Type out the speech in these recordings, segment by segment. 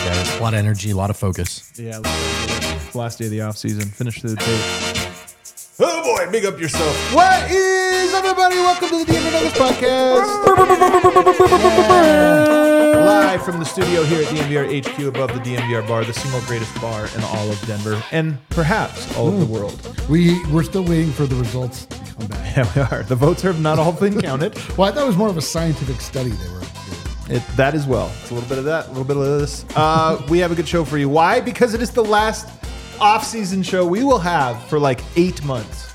guys. A lot of energy, a lot of focus. Yeah, last day of the off season. Finish the day. Oh boy, big up yourself. What is everybody? Welcome to the DMVR Nuggets podcast. Live from the studio here at DMVR HQ above the DMVR bar, the single greatest bar in all of Denver and perhaps all of the world. We're still waiting for the results to come back. Yeah, we are. The votes have not all been counted. Well, I thought it was more of a scientific study they were doing. That as well. It's a little bit of that, a little bit of this. We have a good show for you. Why? Because it is the last off-season show we will have for like 8 months.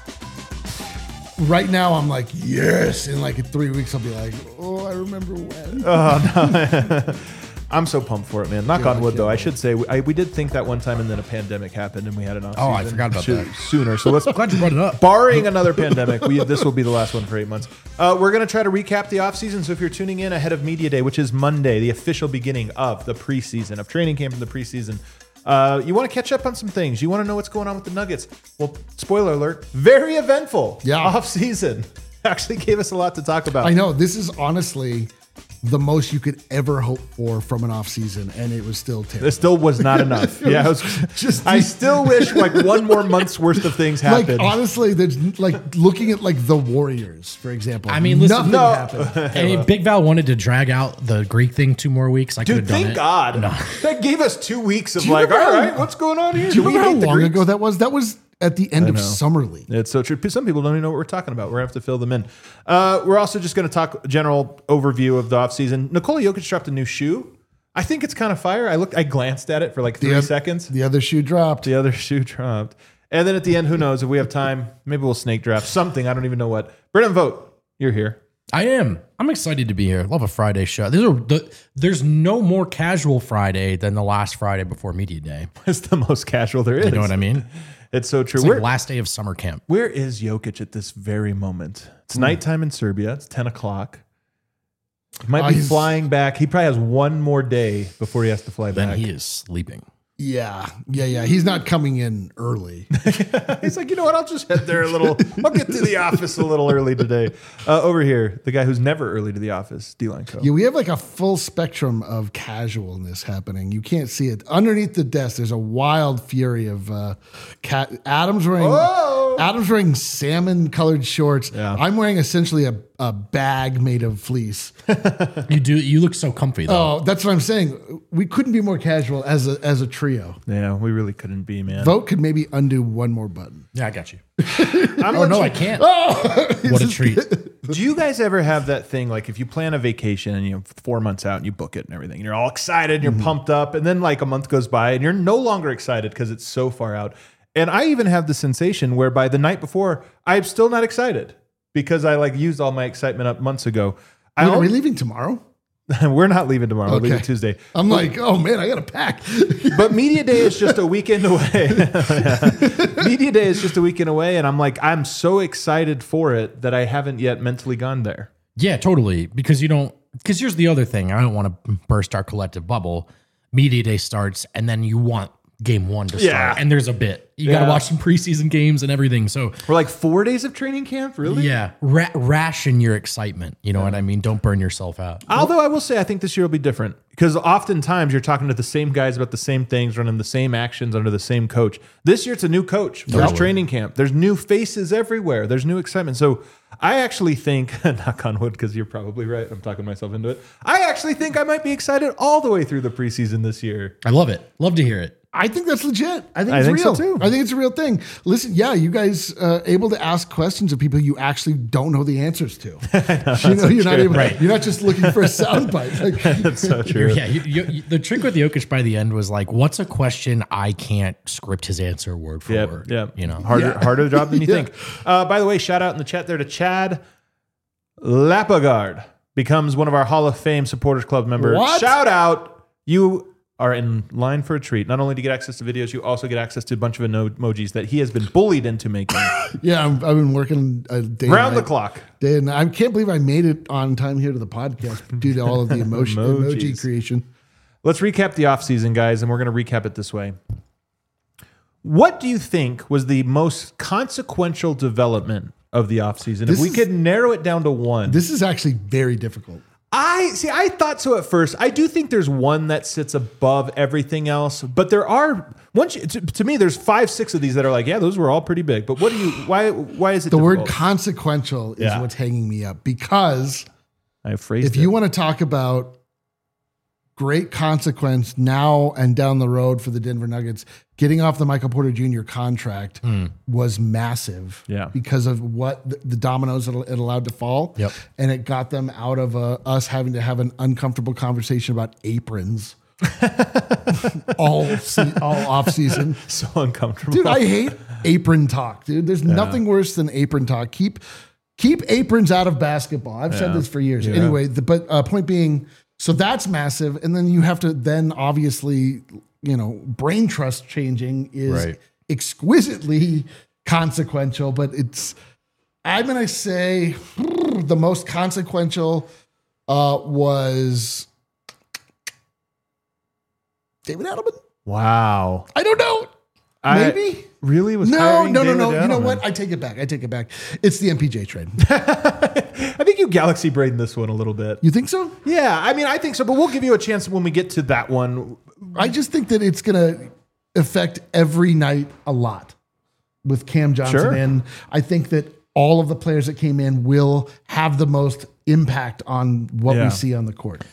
Right now, I'm like, yes. In like 3 weeks, I'll be like, oh, I remember when. Oh, no. I'm so pumped for it, man. Knock on wood, though. I wait. should say, we did think that one time, and then a pandemic happened, and we had an off-season. Oh, I forgot about that. Sooner. So let's, Glad you brought it up. barring another pandemic, this will be the last one for 8 months. We're going to try to recap the offseason. So if you're tuning in ahead of Media Day, which is Monday, the official beginning of the preseason, of training camp and the preseason, you want to catch up on some things. You want to know what's going on with the Nuggets. Well, spoiler alert, very eventful offseason. Actually gave us a lot to talk about. I know. This is honestly the most you could ever hope for from an off season, and it was still terrible. This still was not enough. Yeah, I still wish like one more month's worth of things happened. Like, honestly, there's like looking at like the Warriors, for example. I mean, listen, nothing happened. I mean, Big Val wanted to drag out the Greek thing 2 more weeks. I could Dude, have done thank it. God. No. That gave us 2 weeks of you like, all remember right, what's going on here? Do you remember how hate the long Greeks? ago that was? That was at the end of Summer League. It's so true. Some people don't even know what we're talking about. We're going to have to fill them in. We're also just going to talk general overview of the offseason. Nikola Jokic dropped a new shoe. I think it's kind of fire. I glanced at it for like 3 seconds. The other shoe dropped. The other shoe dropped. And then at the end, who knows? If we have time, maybe we'll snake draft something. I don't even know what. Brennan Vogt, you're here. I am. I'm excited to be here. Love a Friday show. There's no more casual Friday than the last Friday before Media Day. It's the most casual there is. You know what I mean? It's so true. It's like last day of summer camp. Where is Jokic at this very moment? It's nighttime in Serbia. It's 10 o'clock. He might be flying back. He probably has one more day before he has to fly Then back. he is sleeping. Yeah. He's not coming in early. He's like, you know what? I'll just head there a little. I'll get to the office a little early today. Over here, the guy who's never early to the office, D-Line Co. Yeah, we have like a full spectrum of casualness happening. You can't see it. Underneath the desk, there's a wild fury of Adam's wearing salmon-colored shorts. Yeah. I'm wearing essentially a bag made of fleece. You look so comfy though. Oh, that's what I'm saying. We couldn't be more casual as a trio. Yeah, we really couldn't be, man. Vogt could maybe undo one more button. Yeah, I got you. Oh, No, I can't. What a treat. Do you guys ever have that thing, like if you plan a vacation and you're 4 months out and you book it and everything, and you're all excited and you're pumped up, and then like a month goes by and you're no longer excited because it's so far out. And I even have the sensation whereby the night before, I'm still not excited because I like used all my excitement up months ago. Are we leaving tomorrow? We're not leaving tomorrow. We're Okay. leaving Tuesday. I'm like, oh man, I got to pack. But Media Day is just a weekend away. Media Day is just a weekend away. And I'm like, I'm so excited for it that I haven't yet mentally gone there. Yeah, totally. Because here's the other thing. I don't want to burst our collective bubble. Media Day starts, and then you want game 1 to start. And there's a bit. You got to watch some preseason games and everything. So We're like 4 days of training camp, really? yeah, ration your excitement. You know what I mean? Don't burn yourself out. Although I will say, I think this year will be different because oftentimes you're talking to the same guys about the same things, running the same actions under the same coach. This year it's a new coach. First training camp. There's new faces everywhere. There's new excitement. So I actually think, knock on wood, because you're probably right. I'm talking myself into it. I actually think I might be excited all the way through the preseason this year. I love it. Love to hear it. I think that's legit. I think I it's think so, real. too. I think it's a real thing. Listen, yeah, you guys able to ask questions of people you actually don't know the answers to. You're not just looking for a soundbite. Like, That's so true. Yeah, the trick with Jokic by the end was like, what's a question I can't script his answer word for word? Yeah. You know, Harder job than you think. By the way, shout out in the chat there to Chad Lapagard. Becomes one of our Hall of Fame Supporters Club members. What? Shout out. You are in line for a treat. Not only do you get access to videos, you also get access to a bunch of emojis that he has been bullied into making. yeah, I've been working a day Round the clock. And I can't believe I made it on time here to the podcast due to all of the emoji creation. Let's recap the offseason, guys, and we're going to recap it this way. What do you think was the most consequential development of the offseason? If we could narrow it down to one. This is actually very difficult. I thought so at first. I do think there's one that sits above everything else, but there are to me there's 5-6 of these that are like, yeah, those were all pretty big. But why is it the difficult? word consequential is what's hanging me up, because I phrased if you want to talk about great consequence now and down the road for the Denver Nuggets, getting off the Michael Porter Jr. contract was massive because of what the dominoes it allowed to fall. Yep. And it got them out of us having to have an uncomfortable conversation about aprons all off season. So uncomfortable. Dude, I hate apron talk, dude. There's nothing worse than apron talk. Keep aprons out of basketball. I've said this for years. Yeah. Anyway, but point being, so that's massive. And then you have to then obviously, brain trust changing is exquisitely consequential, but I'm going to say the most consequential was David Adelman. Wow. I don't know. Maybe. Really? No. David You know Adelman? what? I take it back. It's the MPJ trade. I think you galaxy braiding this one a little bit. You think so? Yeah, I mean, I think so, but we'll give you a chance when we get to that one. I just think that it's going to affect every night a lot with Cam Johnson. Sure. And I think that all of the players that came in will have the most impact on what we see on the court.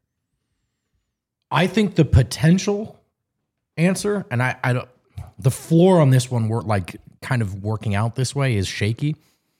I think the potential answer, and I don't, the floor on this one, kind of working out this way is shaky.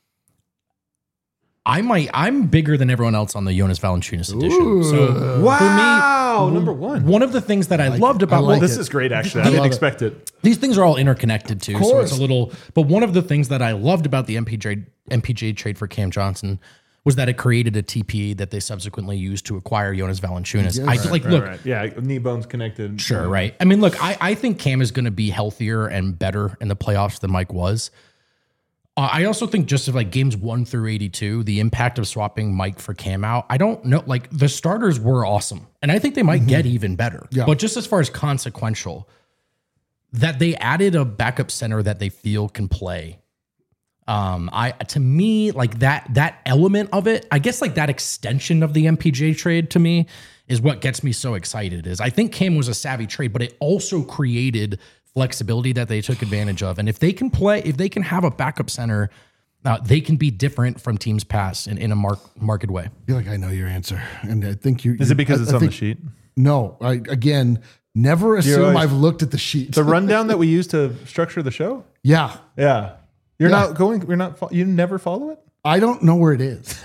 I'm bigger than everyone else on the Jonas Valanciunas edition. So wow, for me, number one of the things that I loved about this is great. Actually, I didn't expect it. These things are all interconnected too, so it's a little. But one of the things that I loved about the MPJ trade for Cam Johnson was that it created a TPE that they subsequently used to acquire Jonas Valanciunas. Yes. Yeah, knee bones connected. Sure, right. I mean, look, I think Cam is going to be healthier and better in the playoffs than Mike was. I also think just of games 1 through 82, the impact of swapping Mike for Cam out, I don't know. The starters were awesome, and I think they might get even better. Yeah. But just as far as consequential, that they added a backup center that they feel can play. To me, that element of it, I guess that extension of the MPJ trade to me is what gets me so excited. Is I think Cam was a savvy trade, but it also created flexibility that they took advantage of. And if they can have a backup center, they can be different from teams past in a marked way. I feel like I know your answer. And I think Is it because it's on the sheet? No. Never assume I've looked at the sheet. The rundown that we use to structure the show? Yeah. Yeah. You never follow it? I don't know where it is.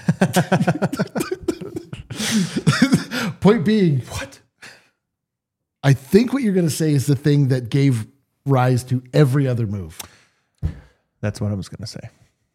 Point being, what? I think what you're going to say is the thing that gave rise to every other move. That's what I was going to say.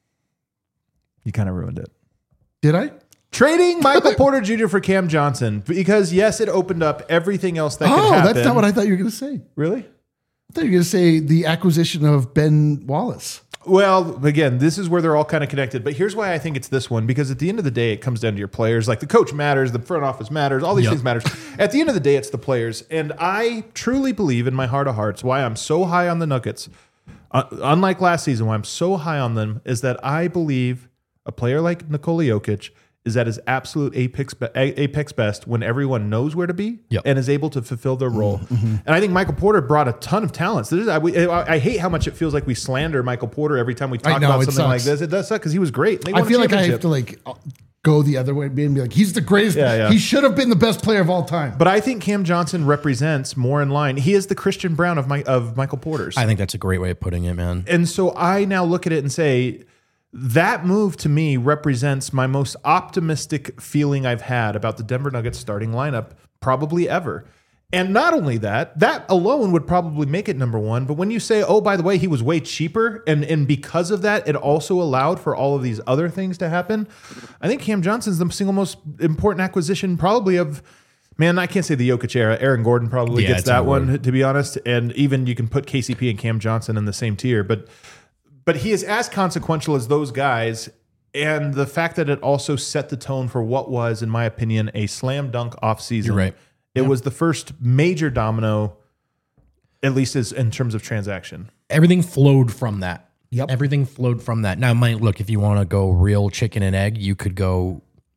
You kind of ruined it. Did I? Trading Michael Porter Jr. for Cam Johnson. Because, yes, it opened up everything else that could happen. That's not what I thought you were going to say. Really? I thought you were going to say the acquisition of Ben Wallace. Well, again, this is where they're all kind of connected. But here's why I think it's this one. Because at the end of the day, it comes down to your players. The coach matters. The front office matters. All these things matters. At the end of the day, it's the players. And I truly believe in my heart of hearts why I'm so high on the Nuggets, unlike last season, why I'm so high on them, is that I believe a player like Nikola Jokic is at his absolute apex best when everyone knows where to be and is able to fulfill their role. Mm-hmm. And I think Michael Porter brought a ton of talents. I hate how much it feels like we slander Michael Porter every time we talk about something like this. It does suck because he was great. I feel like I have to go the other way and be like, he's the greatest. Yeah. He should have been the best player of all time. But I think Cam Johnson represents more in line. He is the Christian Brown of Michael Porter's. I think that's a great way of putting it, man. And so I now look at it and say, that move to me represents my most optimistic feeling I've had about the Denver Nuggets starting lineup probably ever. And not only that alone would probably make it number one. But when you say, oh, by the way, he was way cheaper, and because of that, it also allowed for all of these other things to happen. I think Cam Johnson's the single most important acquisition probably of, man, I can't say the Jokic era. Aaron Gordon probably gets that one, to be honest. And even you can put KCP and Cam Johnson in the same tier. But he is as consequential as those guys, and the fact that it also set the tone for what was, in my opinion, a slam dunk offseason. You're right. It was the first major domino, at least in terms of transaction. Everything flowed from that. Yep. Everything flowed from that. Now, look, if you want to go real chicken and egg, you could go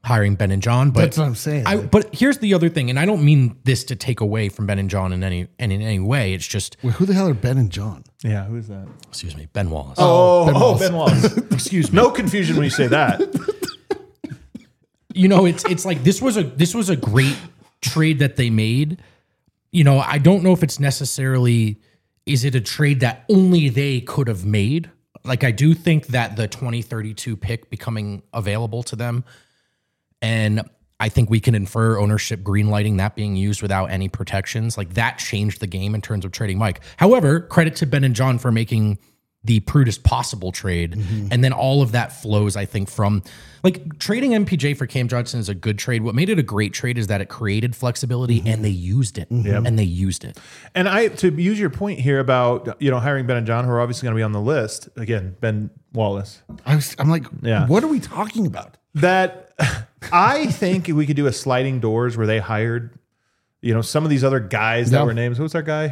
hiring Ben and John. But That's what I'm saying. But here's the other thing, and I don't mean this to take away from Ben and John in any way. It's just Wait, who the hell are Ben and John? Yeah, who's that? excuse me, Ben Wallace. Ben Wallace. Excuse me. No confusion when you say that. You know, it's like this was a great trade that they made. You know, I don't know if it's necessarily, is it a trade that only they could have made? Like, I do think that the 2032 pick becoming available to them, and I think we can infer ownership greenlighting that being used without any protections. Like, that changed the game in terms of trading Mike. However, credit to Ben and John for making the prudest possible trade. Mm-hmm. And then all of that flows, I think, from like trading MPJ for Cam Johnson is a good trade. What made it a great trade is that it created flexibility and they used it. Mm-hmm. And they used it. And to use your point here about, hiring Ben and John, who are obviously going to be on the list. Again, Ben Wallace. I'm like, what are we talking about? That I think we could do a sliding doors where they hired some of these other guys that were names. Who's our guy?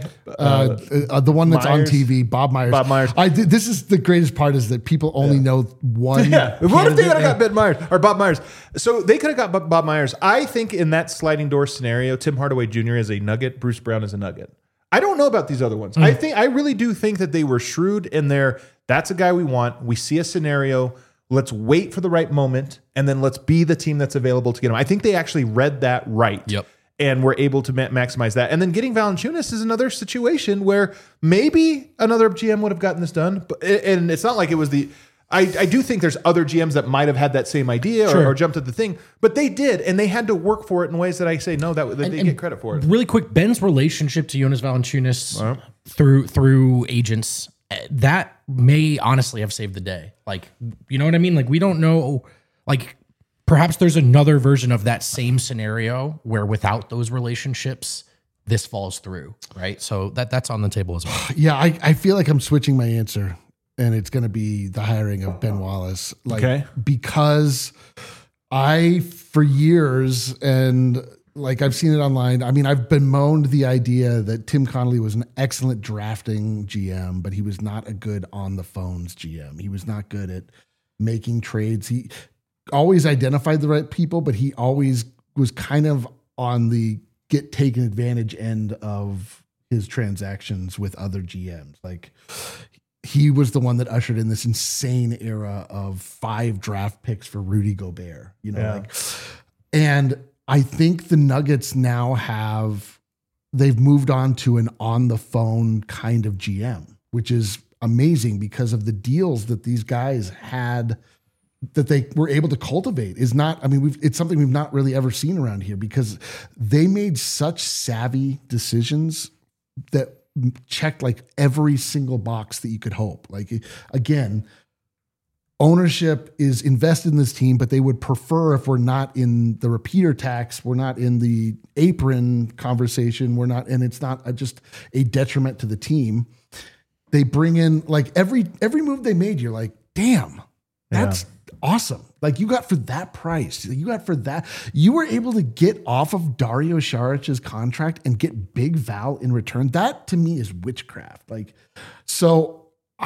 The one that's Myers. on TV, Bob Myers. Bob Myers. This is the greatest part is that people only know one. Yeah. What if they could have got Ben Myers or Bob Myers? So they could have got Bob Myers. I think in that sliding door scenario, Tim Hardaway Jr. is a Nugget, Bruce Brown is a Nugget. I don't know about these other ones. I really do think that they were shrewd in there. That's a guy we want. We see a scenario. Let's wait for the right moment, and then let's be the team that's available to get him. I think they actually read that right. Yep. And we're able to maximize that. And then getting Valanciunas is another situation where maybe another GM would have gotten this done. And it's not like it was I do think there's other GMs that might have had that same idea or jumped at the thing, but they did, and they had to work for it in ways that I say no, that they get credit for it. Really quick, Ben's relationship to Jonas Valanciunas through agents, that may honestly have saved the day. Like, you know what I mean? Like, we don't know, like, perhaps there's another version of that same scenario where without those relationships, this falls through, right? So that's on the table as well. Yeah, I feel like I'm switching my answer, and it's going to be the hiring of Ben Wallace. Because for years, and like I've seen it online, I mean, I've bemoaned the idea that Tim Connolly was an excellent drafting GM, but he was not a good on the phones GM. He was not good at making trades. He always identified the right people, but he always was kind of on the get taken advantage end of his transactions with other GMs. Like, he was the one that ushered in this insane era of 5 draft picks for Rudy Gobert, and I think the Nuggets now they've moved on to an on the phone kind of GM, which is amazing because of the deals that these guys had that they were able to cultivate. It's something we've not really ever seen around here because they made such savvy decisions that checked like every single box that you could hope. Like, again, ownership is invested in this team, but they would prefer if we're not in the repeater tax, we're not in the apron conversation, and it's not just a detriment to the team. They bring in like every move they made, you're like, damn, that's awesome. Like, you got for that price, you were able to get off of Dario Saric's contract and get Big Val in return. That to me is witchcraft. Like, so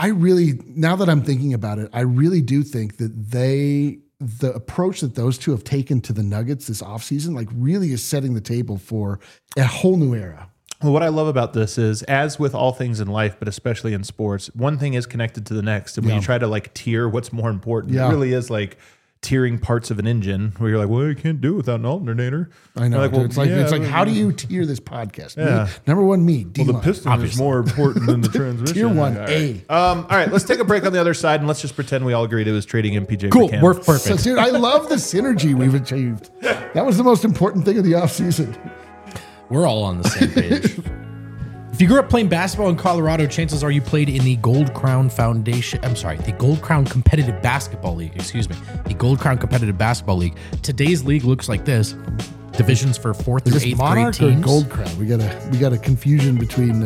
now that I'm thinking about it, I really do think that the approach that those two have taken to the Nuggets this offseason, like, really is setting the table for a whole new era. Well, what I love about this is, as with all things in life, but especially in sports, one thing is connected to the next. And when you try to like tier what's more important, it really is like tiering parts of an engine where you're like, well, you can't do it without an alternator. I know. It's like, how do you tier this podcast? Me, number one, me. Well, the piston is more important than the transmission. Tier 1A. All right, let's take a break on the other side, and let's just pretend we all agreed it was trading MPJ. Cool, for Cam. we're perfect. So, dude, I love the synergy we've achieved. That was the most important thing of the offseason. We're all on the same page. If you grew up playing basketball in Colorado, chances are you played in the Gold Crown the Gold Crown Competitive Basketball League. The Gold Crown Competitive Basketball League. Today's league looks like this. Divisions for 4th through 8th Monarch grade teams. Or Gold Crown? We got a confusion between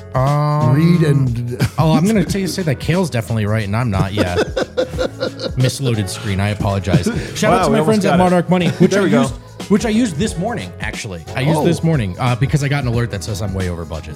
Reed and. I'm going to say that Kale's definitely right, and I'm not. Yeah, misloaded screen. I apologize. Shout out to my friends at Monarch Money, which I used this morning. Actually, I used this morning because I got an alert that says I'm way over budget.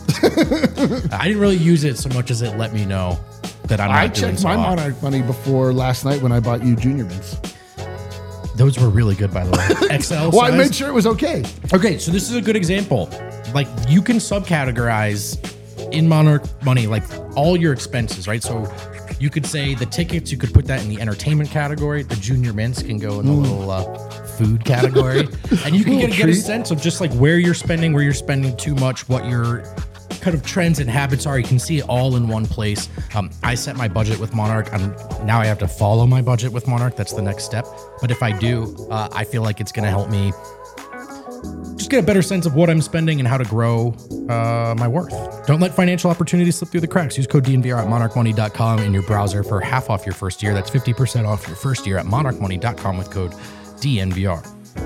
I didn't really use it so much as it let me know that I'm not doing so I checked my well. Monarch Money before last night when I bought you Junior Mints. Those were really good, by the way. XL Well, size. I made sure it was okay. Okay, so this is a good example. Like, you can subcategorize in Monarch Money, like, all your expenses, right? So you could say the tickets, you could put that in the entertainment category. The junior mints can go in the little food category. And you can get a sense of just like where you're spending too much, what your kind of trends and habits are. You can see it all in one place. I set my budget with Monarch. Now I have to follow my budget with Monarch. That's the next step. But if I do, I feel like it's going to help me just get a better sense of what I'm spending and how to grow my worth. Don't let financial opportunities slip through the cracks. Use code DNVR at monarchmoney.com in your browser for half off your first year. That's 50% off your first year at monarchmoney.com with code DNVR.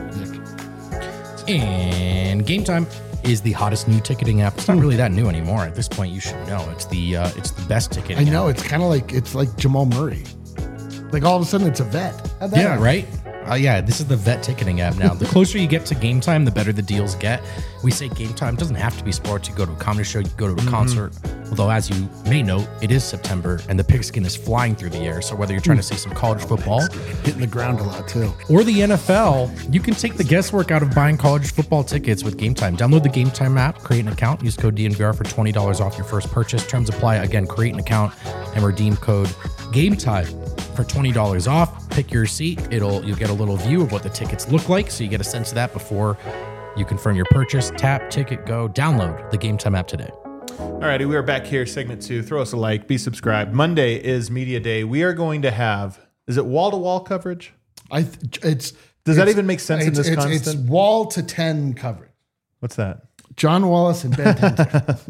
And Game Time is the hottest new ticketing app. It's not really that new anymore. At this point, you should know. It's the best ticketing I know. app. It's kind of like Jamal Murray. Like all of a sudden it's a vet. How'd that Yeah, happen? right? Yeah, this is the vet ticketing app now. The closer you get to Game Time, the better the deals get. We say Game Time doesn't have to be sports. You go to a comedy show, you go to a concert. Although, as you may note, it is September and the pigskin is flying through the air. So whether you're trying to see some college football Hitting the ground a lot too. or the NFL, you can take the guesswork out of buying college football tickets with Game Time. Download the Game Time app, create an account, use code DNVR for $20 off your first purchase. Terms apply. Again, create an account and redeem code Game Time for $20 off. Pick your seat. You'll get a little view of what the tickets look like, so you get a sense of that before you confirm your purchase. Tap, ticket, go. Download the Game Time app today. All righty, we are back here, segment 2. Throw us a like, be subscribed. Monday is media day. We are going to have, is it wall-to-wall coverage? Does that even make sense in this constant? It's wall to 10 coverage. What's that? John Wallace and Ben Tenzer.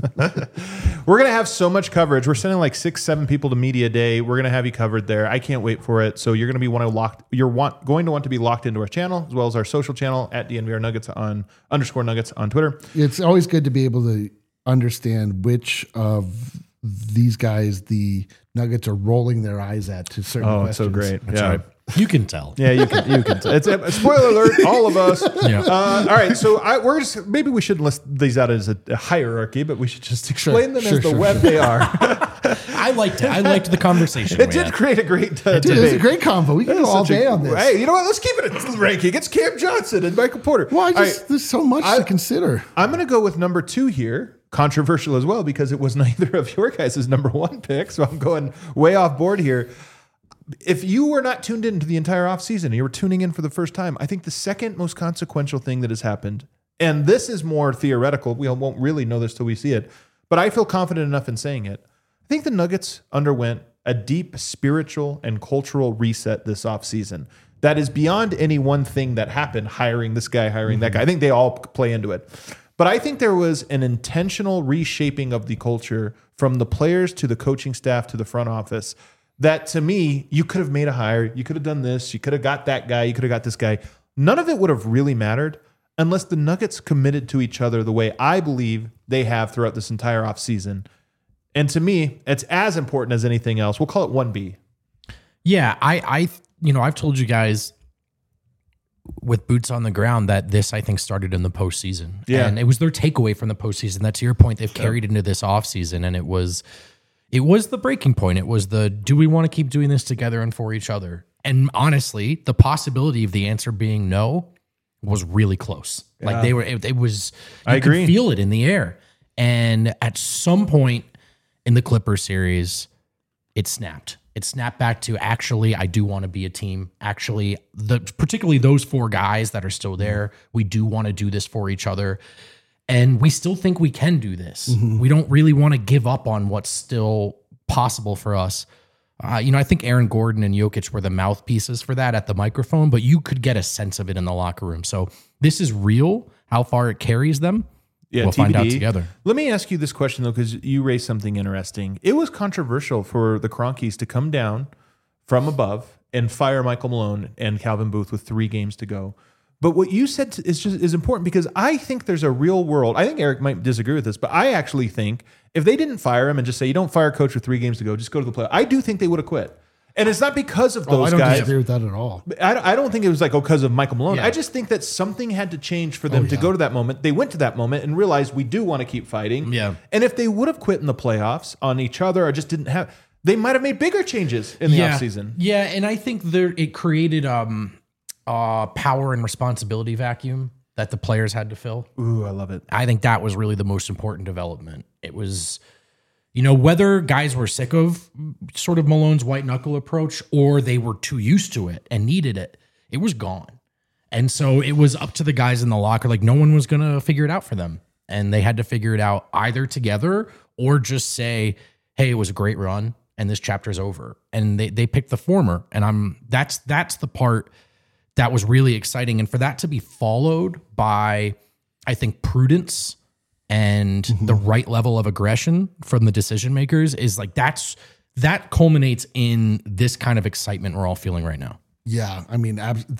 We're going to have so much coverage. We're sending like 6-7 people to media day. We're going to have you covered there. I can't wait for it. So you're going to be going to want to be locked into our channel as well as our social channel at DNVR Nuggets _Nuggets on Twitter. It's always good to be able to understand which of these guys the Nuggets are rolling their eyes at to certain questions. It's so great. That's right. You can tell. Yeah, you can. It's a spoiler alert, all of us. Yeah. All right, so maybe we shouldn't list these out as a hierarchy, but we should just explain them as the web they are. I liked it. I liked the conversation. It did create a great Dude, debate. it's a great combo. We can go all day on this. Hey, you know what? Let's keep it a ranking. It's Cam Johnson and Michael Porter. Well, All right, there's so much to consider. I'm going to go with number 2 here. Controversial as well because it was neither of your guys' number 1 pick, so I'm going way off board here. If you were not tuned into the entire offseason and you were tuning in for the first time, I think the second most consequential thing that has happened, and this is more theoretical, we won't really know this till we see it, but I feel confident enough in saying it. I think the Nuggets underwent a deep spiritual and cultural reset this offseason that is beyond any one thing that happened, hiring this guy, hiring that guy. I think they all play into it. But I think there was an intentional reshaping of the culture from the players to the coaching staff to the front office that, to me, you could have made a hire. You could have done this. You could have got that guy. You could have got this guy. None of it would have really mattered unless the Nuggets committed to each other the way I believe they have throughout this entire offseason. And to me, it's as important as anything else. We'll call it 1B. Yeah, I've told you guys with boots on the ground that this, I think, started in the postseason. Yeah. And it was their takeaway from the postseason that, to your point, they've carried into this offseason. And it was the breaking point. It was do we want to keep doing this together and for each other? And honestly, the possibility of the answer being no was really close. Yeah. Like it was, you could feel it in the air. And at some point in the Clippers series, it snapped. It snapped back to, actually, I do want to be a team. Actually, particularly those 4 guys that are still there, we do want to do this for each other. And we still think we can do this. Mm-hmm. We don't really want to give up on what's still possible for us. I think Aaron Gordon and Jokic were the mouthpieces for that at the microphone, but you could get a sense of it in the locker room. So this is real. How far it carries them, we'll find out together. Let me ask you this question, though, because you raised something interesting. It was controversial for the Kroenkes to come down from above and fire Michael Malone and Calvin Booth with 3 games to go. But what you said is important because I think there's a real world. I think Eric might disagree with this, but I actually think if they didn't fire him and just say, you don't fire a coach with 3 games to go, just go to the play. I do think they would have quit. And it's not because of those guys. I don't disagree with that at all. I don't think it was like, because of Michael Malone. Yeah. I just think that something had to change for them to go to that moment. They went to that moment and realized we do want to keep fighting. Yeah. And if they would have quit in the playoffs on each other or just didn't have, they might have made bigger changes in the offseason. Yeah, and I think it created power and responsibility vacuum that the players had to fill. Ooh, I love it. I think that was really the most important development. It was, whether guys were sick of sort of Malone's white knuckle approach or they were too used to it and needed it, it was gone. And so it was up to the guys in the locker. Like, no one was going to figure it out for them. And they had to figure it out either together or just say, hey, it was a great run and this chapter's over. And they picked the former. And that's the part that was really exciting. And for that to be followed by, I think, prudence and the right level of aggression from the decision makers is like, that culminates in this kind of excitement we're all feeling right now. Yeah. I mean,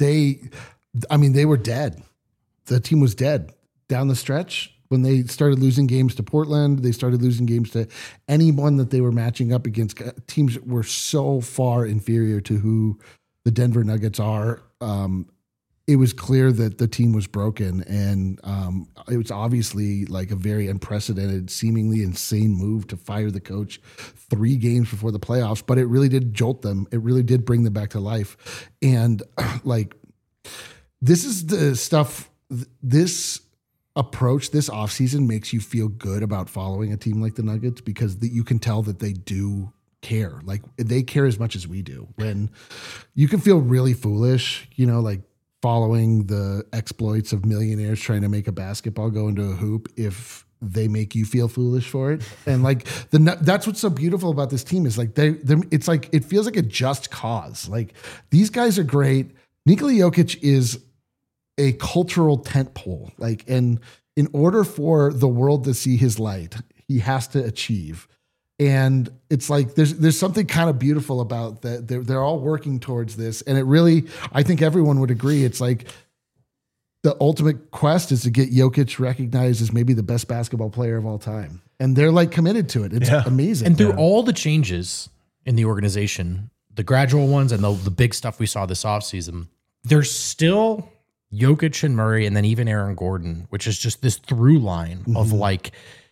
they were dead. The team was dead down the stretch. When they started losing games to Portland, they started losing games to anyone that they were matching up against. Teams were so far inferior to who the Denver Nuggets are. It was clear that the team was broken, and it was obviously like a very unprecedented, seemingly insane move to fire the coach 3 games before the playoffs, but it really did jolt them. It really did bring them back to life. And like, this is the stuff, this approach this offseason makes you feel good about following a team like the Nuggets, because you can tell that they do care. Like, they care as much as we do. When you can feel really foolish, like following the exploits of millionaires trying to make a basketball go into a hoop if they make you feel foolish for it. And like that's what's so beautiful about this team is like it's like, it feels like a just cause. Like, these guys are great. Nikola Jokic is a cultural tentpole. Like, and in order for the world to see his light, he has to achieve. And it's like, there's something kind of beautiful about that. They're all working towards this. And it really, I think everyone would agree. It's like the ultimate quest is to get Jokic recognized as maybe the best basketball player of all time. And they're like committed to it. It's amazing. And through all the changes in the organization, the gradual ones and the big stuff we saw this offseason, there's still Jokic and Murray, and then even Aaron Gordon, which is just this through line of like,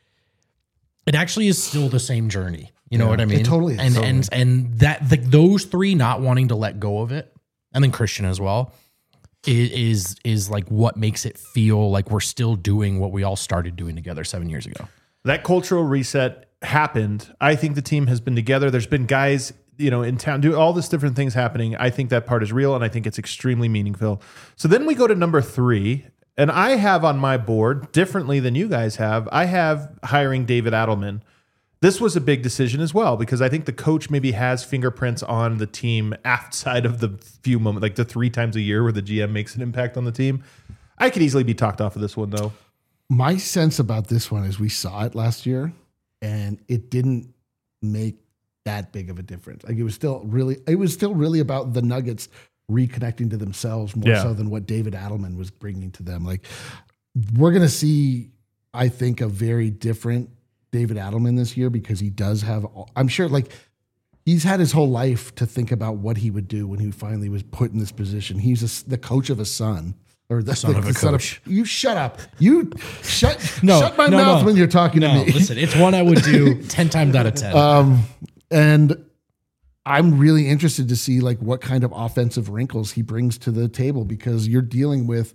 it actually is still the same journey. You know what I mean? It totally is. And that those 3 not wanting to let go of it, and then Christian as well, is like what makes it feel like we're still doing what we all started doing together 7 years ago. That cultural reset happened. I think the team has been together. There's been guys, in town, do all this different things happening. I think that part is real, and I think it's extremely meaningful. So then we go to number 3, and I have on my board, differently than you guys have, I have hiring David Adelman. This was a big decision as well, because I think the coach maybe has fingerprints on the team outside of the few moments, like the 3 times a year where the GM makes an impact on the team. I could easily be talked off of this one, though. My sense about this one is we saw it last year, and it didn't make that big of a difference. Like, it was still really about the Nuggets reconnecting to themselves more so than what David Adelman was bringing to them. Like, we're going to see, I think, a very different David Adelman this year, because he does have, I'm sure, like, he's had his whole life to think about what he would do when he finally was put in this position. He's the coach of a son. Or the son of a coach. You shut up. You shut my mouth when you're talking to me. Listen, it's one I would do 10 times out of 10. And I'm really interested to see like what kind of offensive wrinkles he brings to the table, because you're dealing with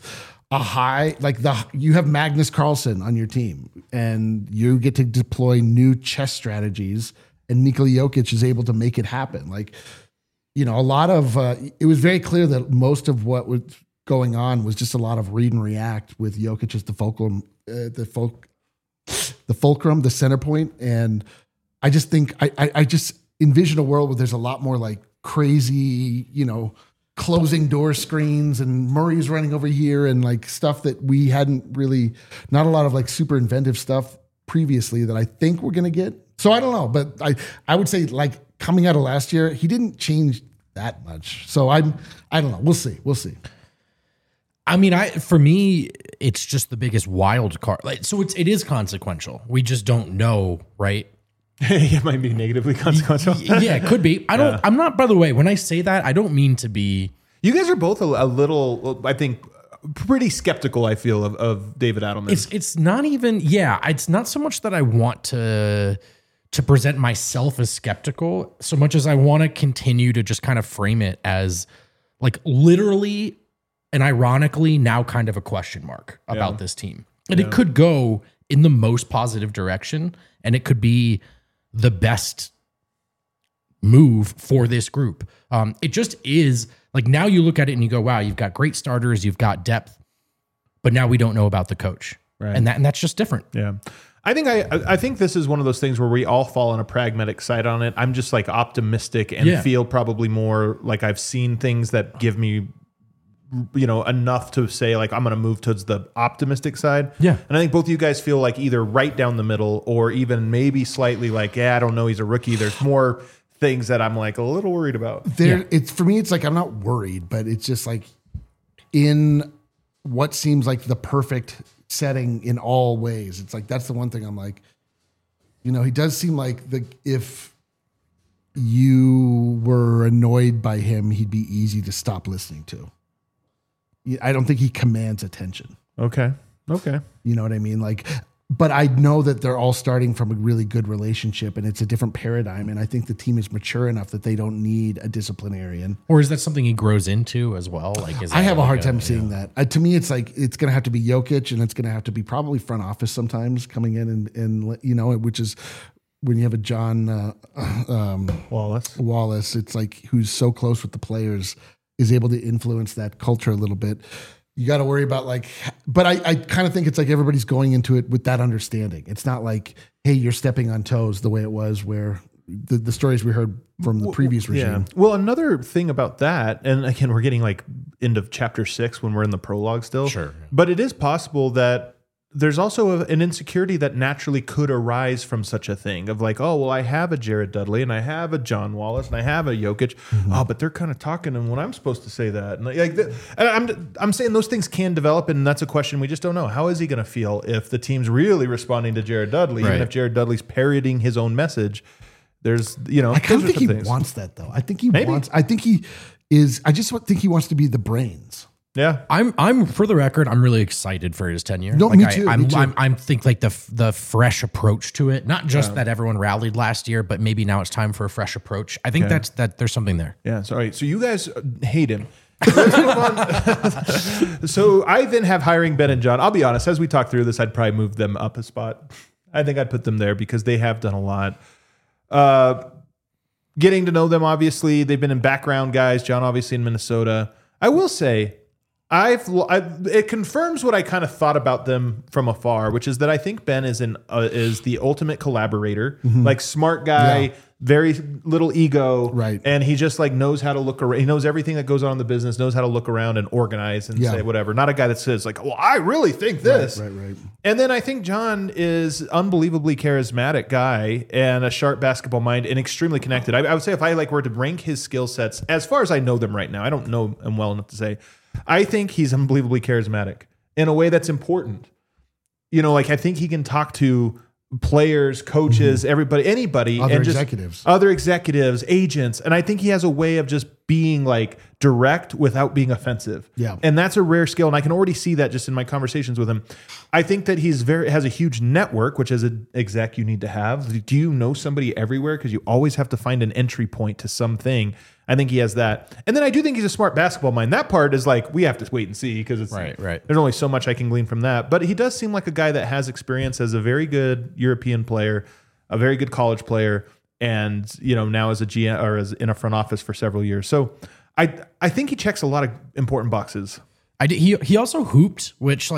you have Magnus Carlsen on your team, and you get to deploy new chess strategies, and Nikola Jokic is able to make it happen. Like, a lot of it was very clear that most of what was going on was just a lot of read and react with Jokic as the fulcrum, the center point. And I just think I just envision a world where there's a lot more like crazy, closing door screens and Murray's running over here and like stuff that we hadn't really, not a lot of like super inventive stuff previously that I think we're going to get. So I don't know, but I would say like coming out of last year, he didn't change that much. So I don't know. We'll see. I mean, for me, it's just the biggest wild card. Like, so it is consequential. We just don't know, right? It might be negatively consequential. Yeah, it could be. I'm not, by the way, when I say that, I don't mean to be. You guys are both a little, I think, pretty skeptical, I feel, of David Adelman. It's not even, it's not so much that I want to present myself as skeptical, so much as I want to continue to just kind of frame it as like literally and ironically now kind of a question mark about this team. And it could go in the most positive direction, and it could be the best move for this group. It just is like, now you look at it and you go, wow, you've got great starters, you've got depth, but now we don't know about the coach. Right. And that's just different. Yeah. I think this is one of those things where we all fall on a pragmatic side on it. I'm just like optimistic and feel probably more like I've seen things that give me, enough to say like I'm going to move towards the optimistic side. Yeah. And I think both of you guys feel like either right down the middle or even maybe slightly like, I don't know, he's a rookie. There's more things that I'm like a little worried about. It's for me, it's like I'm not worried, but it's just like in what seems like the perfect setting in all ways. It's like that's the one thing I'm like, he does seem like if you were annoyed by him, he'd be easy to stop listening to. I don't think he commands attention. Okay. You know what I mean? Like, but I know that they're all starting from a really good relationship, and it's a different paradigm. And I think the team is mature enough that they don't need a disciplinarian. Or is that something he grows into as well? Like, I have a hard time seeing that. To me, it's like it's going to have to be Jokic, and it's going to have to be probably front office sometimes coming in and which is when you have a John Wallace. It's like who's so close with the players is able to influence that culture a little bit. You got to worry about but I kind of think it's like everybody's going into it with that understanding. It's not like, hey, you're stepping on toes the way it was where the stories we heard from the previous regime. Yeah. Well, another thing about that, and again, we're getting like into chapter 6 when we're in the prologue still. Sure. But it is possible that there's also an insecurity that naturally could arise from such a thing of like, oh, well, I have a Jared Dudley and I have a John Wallace and I have a Jokic. Mm-hmm. Oh, but they're kind of talking and when I'm supposed to say that. And I'm saying those things can develop, and that's a question we just don't know. How is he going to feel if the team's really responding to Jared Dudley, even if Jared Dudley's parroting his own message? There's, I kind of think he wants that though. I think he wants to be the brains. Yeah, I'm for the record, I'm really excited for his tenure. No, like me too. I'm think like the fresh approach to it. Not just that everyone rallied last year, but maybe now it's time for a fresh approach. I think that there's something there. Yeah. Sorry. So you guys hate him. Let's move on. So I then have hiring Ben and John. I'll be honest, as we talk through this, I'd probably move them up a spot. I think I'd put them there because they have done a lot. Getting to know them, obviously, they've been in background guys. John, obviously, in Minnesota. I will say, it confirms what I kind of thought about them from afar, which is that I think Ben is the ultimate collaborator, like smart guy, very little ego, right? And he just like knows how to look around. He knows everything that goes on in the business, knows how to look around and organize and say whatever. Not a guy that says like, "Well, I really think this." Right. And then I think John is unbelievably charismatic guy and a sharp basketball mind and extremely connected. I would say if I were to rank his skill sets as far as I know them right now, I don't know him well enough to say. I think he's unbelievably charismatic in a way that's important. I think he can talk to players, coaches, everybody, anybody, other executives, agents. And I think he has a way of just being like direct without being offensive. Yeah. And that's a rare skill. And I can already see that just in my conversations with him. I think that has a huge network, which as an exec you need to have. Do you know somebody everywhere? Because you always have to find an entry point to something. I think he has that. And then I do think he's a smart basketball mind. That part is like, we have to wait and see because it's right. There's only so much I can glean from that. But he does seem like a guy that has experience as a very good European player, a very good college player, and now as a GM or as in a front office for several years. So I think he checks a lot of important boxes. He also hooped, which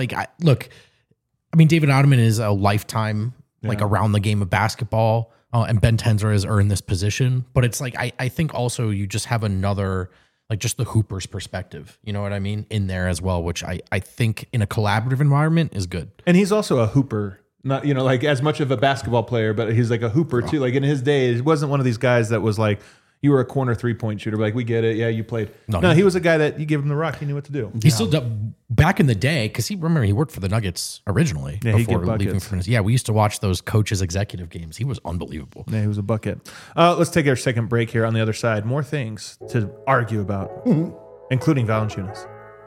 David Ottoman is a lifetime around the game of basketball. And Ben Tenzer has earned this position, but it's like I think also you just have another just the hooper's perspective, you know what I mean, in there as well, which I think in a collaborative environment is good. And he's also a hooper, not as much of a basketball player, but he's like a hooper too. Like in his day, he wasn't one of these guys that was like, you were a corner 3-point shooter. Like, we get it. Yeah, you played. No, he was a guy that you give him the rock. He knew what to do. He still back in the day, because he worked for the Nuggets originally before leaving for. Yeah, we used to watch those coaches' executive games. He was unbelievable. Yeah, he was a bucket. Let's take our second break here on the other side. More things to argue about, including Valanciunas.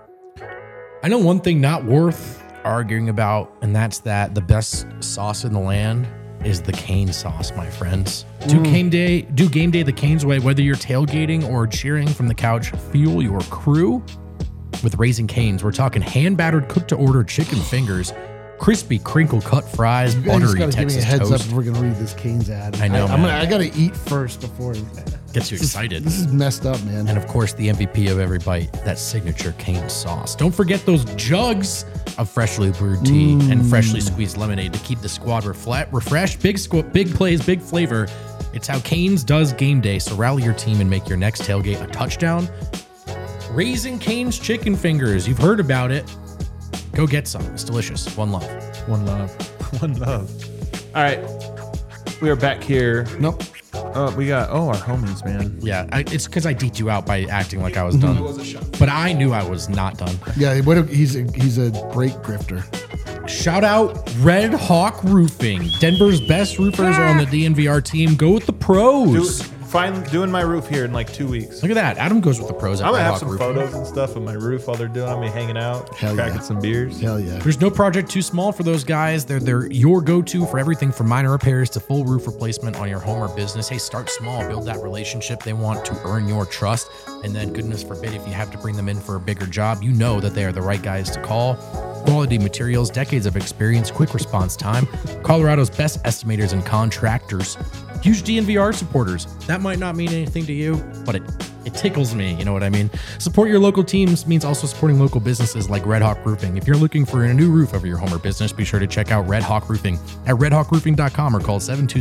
I know one thing not worth arguing about, and that's that the best sauce in the land is the Cane sauce, my friends. Do game day the Cane's way, whether you're tailgating or cheering from the couch. Fuel your crew with Raising Cane's. We're talking hand-battered, cooked-to-order chicken fingers, crispy crinkle-cut fries, You guys just buttery gotta give me a Texas heads toast. up if we're gonna read this Cane's ad. I know, man. I gotta eat first before. Gets you excited. This is messed up, man. And of course, the MVP of every bite, that signature Cane sauce. Don't forget those jugs of freshly brewed tea and freshly squeezed lemonade to keep the squad refreshed. Big plays, big flavor. It's how Cane's does game day. So rally your team and make your next tailgate a touchdown. Raising Cane's chicken fingers. You've heard about it. Go get some. It's delicious. One love. One love. One love. All right. We are back here. Nope. We got, our homies, man. Yeah, it's because I deked you out by acting like I was done. It was a shot. But I knew I was not done. Yeah, he's a break grifter. Shout out Red Hawk Roofing. Denver's best roofers are on the DNVR team. Go with the pros. Doing my roof here in like 2 weeks. Look at that. Adam goes with the pros at I'm Red gonna have Hawk some Roofing. photos and stuff of my roof while they're doing. I'm gonna be hanging out, Hell cracking yeah. some beers. Hell yeah. There's no project too small for those guys. They're your go-to for everything from minor repairs to full roof replacement on your home or business. Hey, start small, build that relationship. They want to earn your trust. And then goodness forbid, if you have to bring them in for a bigger job, you know that they are the right guys to call. Quality materials, decades of experience, quick response time. Colorado's best estimators and contractors. Huge DNVR supporters. That might not mean anything to you, but it tickles me. You know what I mean? Support your local teams means also supporting local businesses like Red Hawk Roofing. If you're looking for a new roof over your home or business, be sure to check out Red Hawk Roofing at redhawkroofing.com or call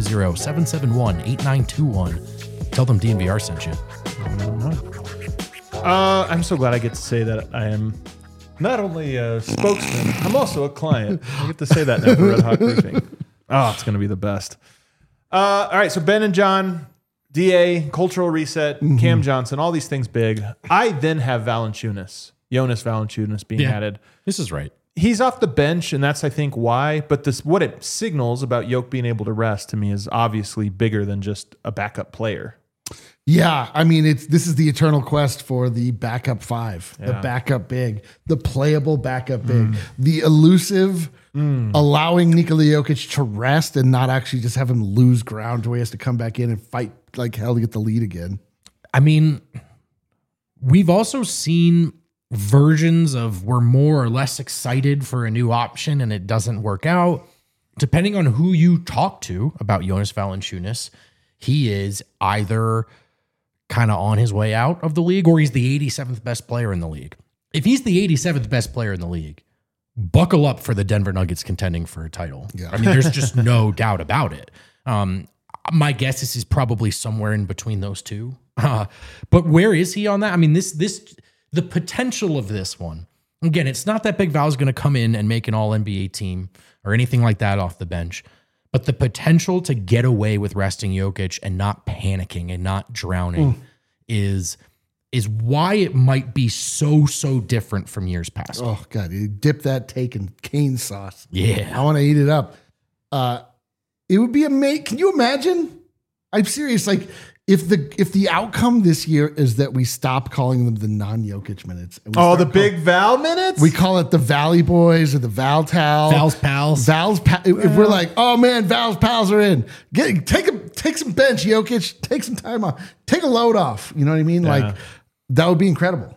720-771-8921. Tell them DNVR sent you. I'm so glad I get to say that I am not only a spokesman, I'm also a client. I get to say that now for Red Hawk Roofing. Oh, it's going to be the best. All right, so Ben and John, DA, Cultural Reset, Cam Johnson, all these things big. I then have Jonas Valanciunas being added. This is right. He's off the bench, and that's, I think, why. But what it signals about Yoke being able to rest to me is obviously bigger than just a backup player. Yeah, I mean, this is the eternal quest for the backup five, the backup big, the playable backup big, the elusive, allowing Nikola Jokic to rest and not actually just have him lose ground to where he has to come back in and fight like hell to get the lead again. I mean, we've also seen versions of we're more or less excited for a new option and it doesn't work out. Depending on who you talk to about Jonas Valanciunas, he is either kind of on his way out of the league or he's the 87th best player in the league. If he's the 87th best player in the league, buckle up for the Denver Nuggets contending for a title. Yeah. I mean, there's just no doubt about it. My guess is he's probably somewhere in between those two. But where is he on that? I mean, the potential of this one, again, it's not that Big Val's going to come in and make an all NBA team or anything like that off the bench. But the potential to get away with resting Jokic and not panicking and not drowning is why it might be so different from years past. Oh God, you dip that take in cane sauce. Yeah. I want to eat it up. It would be amazing. Can you imagine? I'm serious. Like if the outcome this year is that we stop calling them the non-Jokic minutes. And we The Big Val minutes? we call it the Valley Boys or the Val Tal. Val's pals. If we're like, oh man, Val's pals are in. Take some bench, Jokic. Take some time off. Take a load off. You know what I mean? Yeah. Like that would be incredible.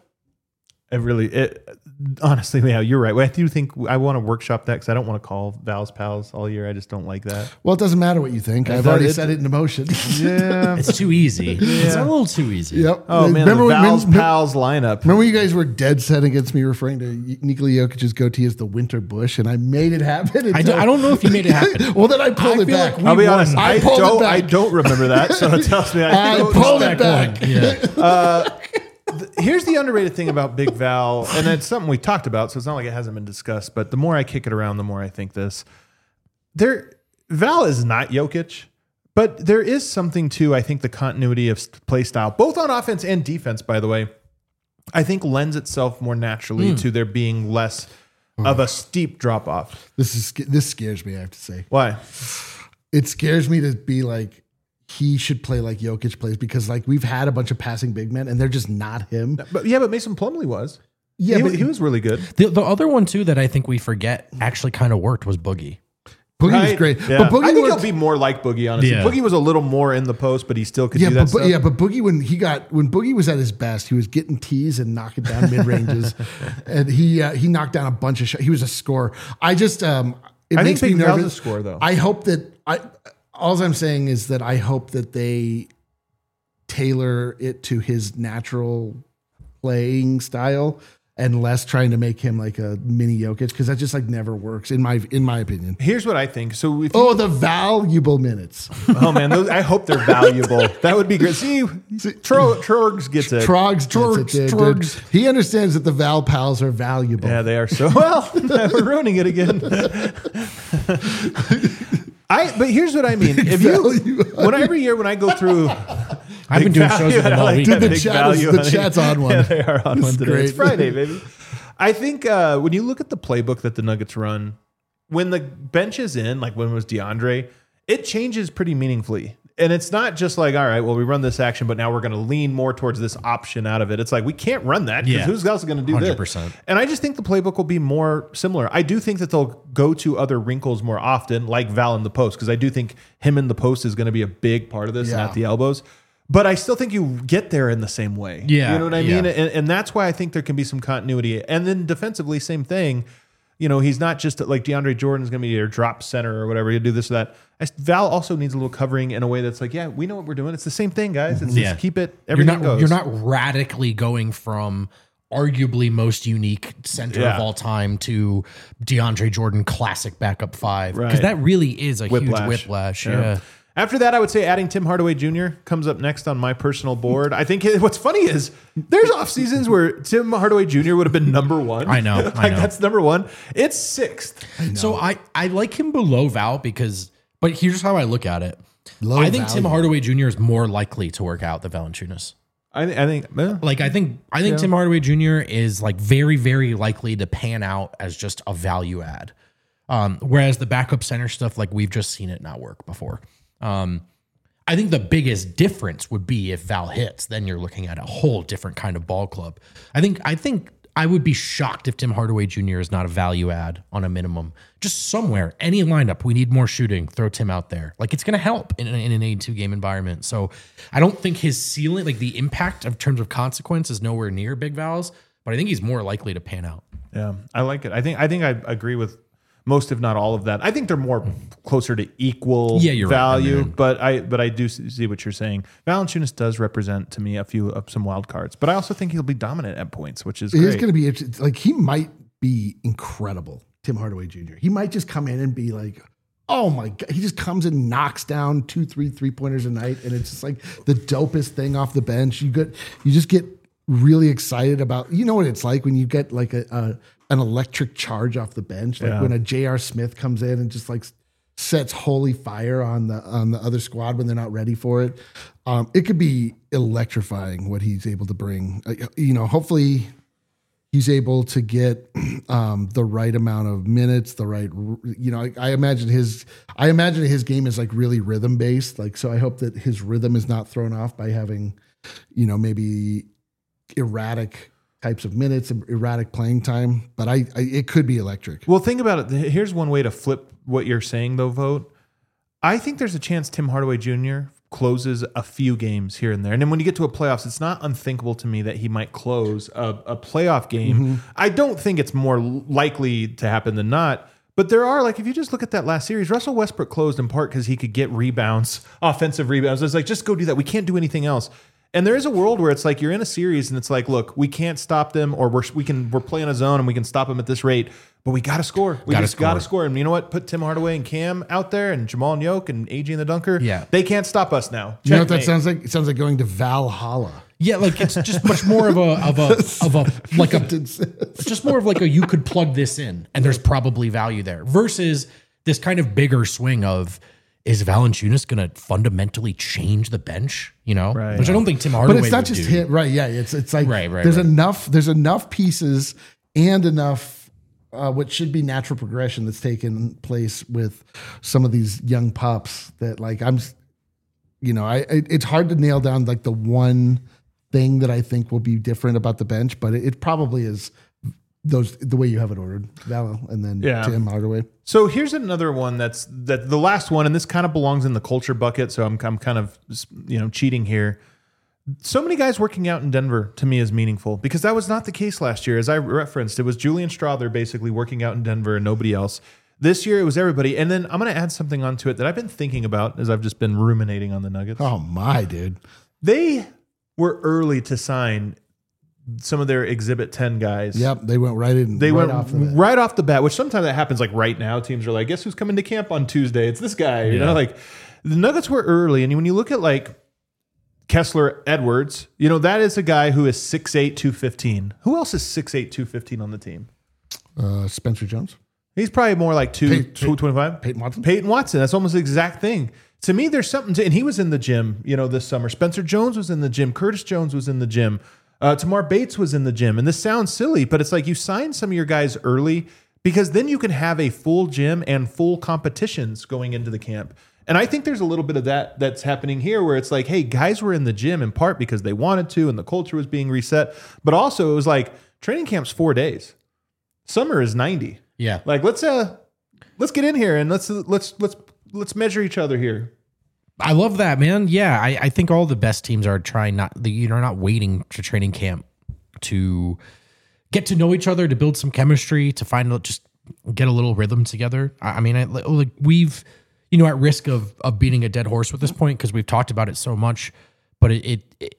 Honestly, yeah, you're right. I do think I want to workshop that because I don't want to call Val's pals all year. I just don't like that. Well, it doesn't matter what you think. I've already set it into motion. Yeah. It's too easy. It's a little too easy. Yep. Oh man, the Val's pals lineup. Remember when you guys were dead set against me referring to Nikola Jokic's goatee as the winter bush, and I made it happen? I don't know if you made it happen. Well, then I pulled it feel back. like I'll be honest. I I pulled it back. I don't remember that, so it tells me I pulled it back. Yeah. Here's the underrated thing about Big Val, and it's something we talked about, so it's not like it hasn't been discussed, but the more I kick it around, the more I think this. Val is not Jokic, but there is something to, I think, the continuity of play style, both on offense and defense, by the way, I think lends itself more naturally to there being less of a steep drop off. This scares me, I have to say. Why? It scares me to be like, he should play like Jokic plays because like we've had a bunch of passing big men and they're just not him. But Mason Plumlee was. Yeah, He was really good. The other one too that I think we forget actually kind of worked was Boogie. Boogie was great. Yeah. But Boogie I think worked- he'll be more like Boogie, honestly. Yeah. Boogie was a little more in the post, but he still could do that but, stuff. but Boogie, when Boogie was at his best, he was getting tees and knocking down mid ranges, and he knocked down a bunch of shots. He was a scorer. I just it makes me Big Val's nervous. a scorer, though. I hope that all I'm saying is that I hope that they tailor it to his natural playing style and less trying to make him like a mini Jokic, because that just like never works in my opinion. Here's what I think. So if you, The valuable minutes. oh man, I hope they're valuable. That would be great. See, Trogs gets it. Trogs. He understands that the Val pals are valuable. Yeah, they are so well. We're ruining it again. But here's what I mean. If you, every year when I go through, I've been doing shows with them all week. Dude, the Big chat's on one. Yeah, they are on one today. great. It's Friday, baby. I think when you look at the playbook that the Nuggets run, when the bench is in, like when it was DeAndre, it changes pretty meaningfully. And it's not just like, all right, well, we run this action, but now we're going to lean more towards this option out of it. It's like, we can't run that because who's else going to do 100%. this? And I just think the playbook will be more similar. I do think that they'll go to other wrinkles more often, like Val in the post, because I do think him in the post is going to be a big part of this and Yeah. at the elbows. But I still think you get there in the same way. Yeah, You know what I yeah. mean? And that's why I think there can be some continuity. And then defensively, same thing. You know, he's not just like DeAndre Jordan's going to be your drop center or whatever. He'll do this or that. Val also needs a little covering in a way that's like, yeah, we know what we're doing. It's the same thing, guys. It's just keep it. Everything goes. You're not radically going from arguably most unique center of all time to DeAndre Jordan classic backup five. Because that really is a huge whiplash. Yeah. After that, I would say adding Tim Hardaway Jr. comes up next on my personal board. I think what's funny is there's off seasons where Tim Hardaway Jr. would have been number one. I know. That's number one. It's sixth. So I like him below Val but here's how I look at it. Low I think value. Tim Hardaway Jr. is more likely to work out than Valanciunas. I think. I think Tim Hardaway Jr. is like very, very likely to pan out as just a value add. Whereas the backup center stuff, like we've just seen it not work before. I think the biggest difference would be if Val hits, then you're looking at a whole different kind of ball club. I think I would be shocked if Tim Hardaway Jr. is not a value add on a minimum. Just somewhere, any lineup, we need more shooting, throw Tim out there. Like it's going to help in an 82 game environment. So I don't think his ceiling, like the impact of terms of consequence is nowhere near Big Val's, but I think he's more likely to pan out. Yeah, I like it. I think I agree with most, if not all of that. I think they're more closer to equal value, right. but I do see what you're saying. Valanciunas does represent to me some wild cards, but I also think he'll be dominant at points, which is great. It's going to be like he might be incredible. Tim Hardaway Jr. He might just come in and be like, oh my God. He just comes and knocks down 2-3 3-pointers a night. And it's just like the dopest thing off the bench. You just get really excited about, you know what it's like when you get like an electric charge off the bench. Like when a J.R. Smith comes in and just like sets holy fire on the other squad when they're not ready for it. It could be electrifying what he's able to bring. Hopefully he's able to get the right amount of minutes, the right, I imagine his game is like really rhythm based. Like, so I hope that his rhythm is not thrown off by having, maybe erratic types of minutes, erratic playing time, but it could be electric. Well, think about it. Here's one way to flip what you're saying, though, Vote. I think there's a chance Tim Hardaway Jr. closes a few games here and there. And then when you get to a playoffs, it's not unthinkable to me that he might close a playoff game. Mm-hmm. I don't think it's more likely to happen than not. But there are, like, if you just look at that last series, Russell Westbrook closed in part because he could get rebounds, offensive rebounds. It's like, just go do that. We can't do anything else. And there is a world where it's like you're in a series and it's like, look, we can't stop them, or we're playing a zone and we can stop them at this rate, but we got to score. We just got to score. And you know what? Put Tim Hardaway and Cam out there and Jamal and Yoke and AG and the Dunker. Yeah. They can't stop us now. You know what that sounds like? It sounds like going to Valhalla. Yeah, like it's just much more of just more of like a you could plug this in and there's probably value there versus this kind of bigger swing of, is Valanciunas going to fundamentally change the bench? Right. Which I don't think Tim Hardaway. But it's not just him, right? Yeah, it's like there's enough pieces and enough what should be natural progression that's taken place with some of these young pups that like it's hard to nail down like the one thing that I think will be different about the bench, but it probably is the way you have it ordered, Val, and then Tim Hardaway. So here's another one that's the last one, and this kind of belongs in the culture bucket. So I'm kind of cheating here. So many guys working out in Denver to me is meaningful because that was not the case last year. As I referenced, it was Julian Strawther basically working out in Denver and nobody else. This year it was everybody. And then I'm going to add something onto it that I've been thinking about as I've just been ruminating on the Nuggets. Oh my, dude. They were early to sign some of their Exhibit 10 guys. Yep, they went right in. They went right off the bat, which sometimes that happens like right now. Teams are like, guess who's coming to camp on Tuesday? It's this guy. You know, like the Nuggets were early. And when you look at like Kessler Edwards, that is a guy who is 6'8", 215. Who else is 6'8", 215 on the team? Spencer Jones. He's probably more like 225. Peyton Watson. Peyton Watson. That's almost the exact thing. To me, there's something and he was in the gym, this summer. Spencer Jones was in the gym. Curtis Jones was in the gym. Tamar Bates was in the gym. And this sounds silly, but it's like you sign some of your guys early because then you can have a full gym and full competitions going into the camp. And I think there's a little bit of that's happening here where it's like, hey, guys were in the gym in part because they wanted to and the culture was being reset. But also it was like training camp's 4 days. Summer is 90. Yeah. Like let's get in here and let's measure each other here. I love that, man. Yeah, I think all the best teams are trying not waiting to training camp to get to know each other, to build some chemistry, to just get a little rhythm together. I mean, we've at risk of beating a dead horse with this point because we've talked about it so much, but it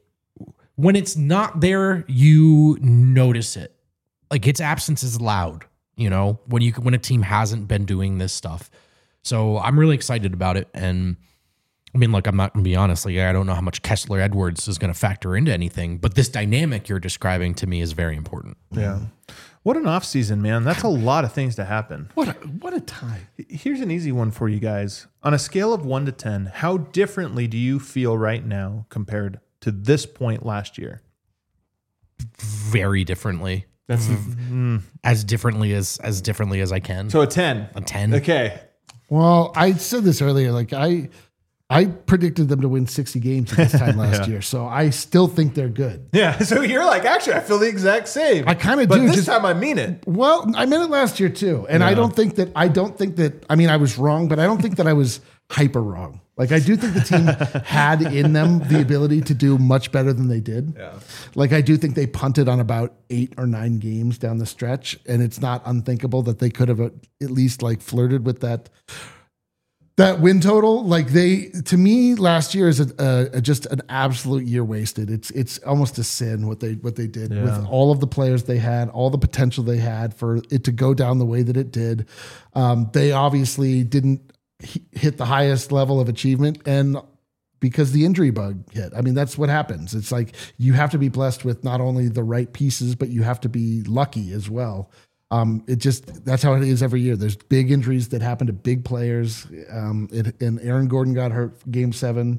when it's not there, you notice it. Like its absence is loud. When a team hasn't been doing this stuff. So I'm really excited about it. And I mean, look, I'm not going to be honest. Like, I don't know how much Kessler Edwards is going to factor into anything, but this dynamic you're describing to me is very important. Yeah. What an off season, man. That's a lot of things to happen. What a time. Here's an easy one for you guys. On a scale of 1 to 10, how differently do you feel right now compared to this point last year? Very differently. That's as differently as I can. So a 10. A 10. Okay. Well, I said this earlier. Like I predicted them to win 60 games at this time last year, so I still think they're good. Yeah. So you're like, actually, I feel the exact same. I kind of do. But this just time I mean it. Well, I meant it last year too, and I don't think that. I mean, I was wrong, but I don't think that I was hyper wrong. Like I do think the team had in them the ability to do much better than they did. Yeah. Like I do think they punted on about 8 or 9 games down the stretch, and it's not unthinkable that they could have at least like flirted with that win total. Like to me, last year is just an absolute year wasted. It's almost a sin what they did with all of the players they had, all the potential they had for it to go down the way that it did. They obviously didn't hit the highest level of achievement, and because the injury bug hit. I mean, that's what happens. It's like you have to be blessed with not only the right pieces, but you have to be lucky as well. That's how it is every year. There's big injuries that happen to big players. And Aaron Gordon got hurt game 7.